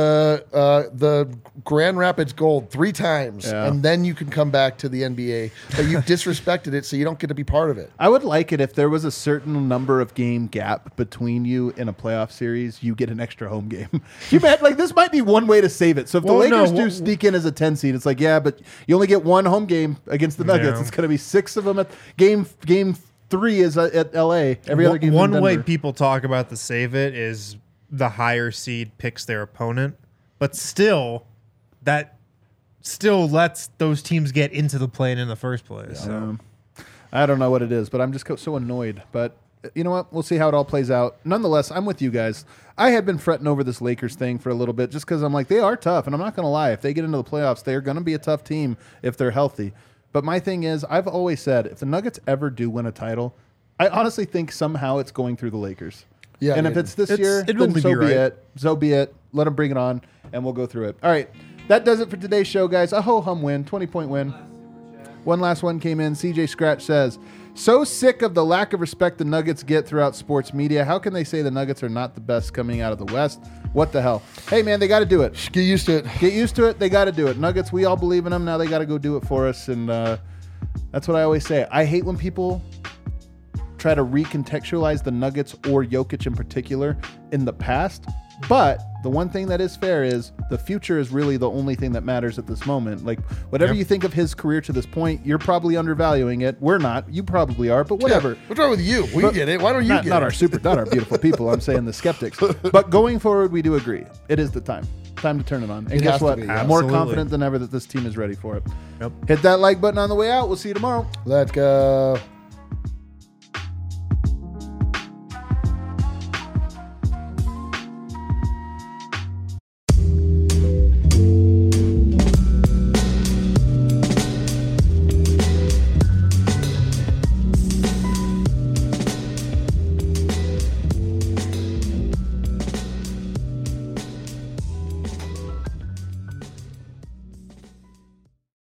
the Grand Rapids Gold 3 times, Yeah. and then you can come back to the NBA. But you've disrespected it, so you don't get to be part of it. I would like it if there was a certain number of game gap between you in a playoff series. You get an extra home game. You bet, this might be one way to save it. So if the Lakers do sneak in as a 10 seed, it's like, yeah, but you only get one home game against the Nuggets. Yeah. It's going to be 6 of them at game 3 is at LA. Every other game. One way people talk about the save it is the higher seed picks their opponent, but still, that still lets those teams get into the play-in in the first place. So. I don't know what it is, but I'm just so annoyed. But you know what? We'll see how it all plays out. Nonetheless, I'm with you guys. I had been fretting over this Lakers thing for a little bit just because I'm like, they are tough. And I'm not going to lie. If they get into the playoffs, they're going to be a tough team if they're healthy. But my thing is, I've always said, if the Nuggets ever do win a title, I honestly think somehow it's going through the Lakers. Yeah, and if it's this year, it'll then be so be right. it. So be it. Let them bring it on, and we'll go through it. All right. That does it for today's show, guys. A ho-hum win, 20-point win. One last one came in. CJ Scratch says, so sick of the lack of respect the Nuggets get throughout sports media. How can they say the Nuggets are not the best coming out of the West? What the hell? Hey, man, they got to do it. Get used to it. Get used to it. They got to do it. Nuggets, we all believe in them. Now they got to go do it for us. And That's what I always say. I hate when people try to recontextualize the Nuggets or Jokic in particular in the past. But the one thing that is fair is the future is really the only thing that matters at this moment. Like, whatever you think of his career to this point, you're probably undervaluing it. We're not. You probably are, but whatever. Yeah, what's wrong with you? We get it. Why don't you get not it? not our beautiful people. I'm saying the skeptics. But going forward, we do agree. It is the time to turn it on. And It guess has to what? be, I'm yeah. more Absolutely. confident than ever that this team is ready for it. Yep. Hit that like button on the way out. We'll see you tomorrow. Let's go.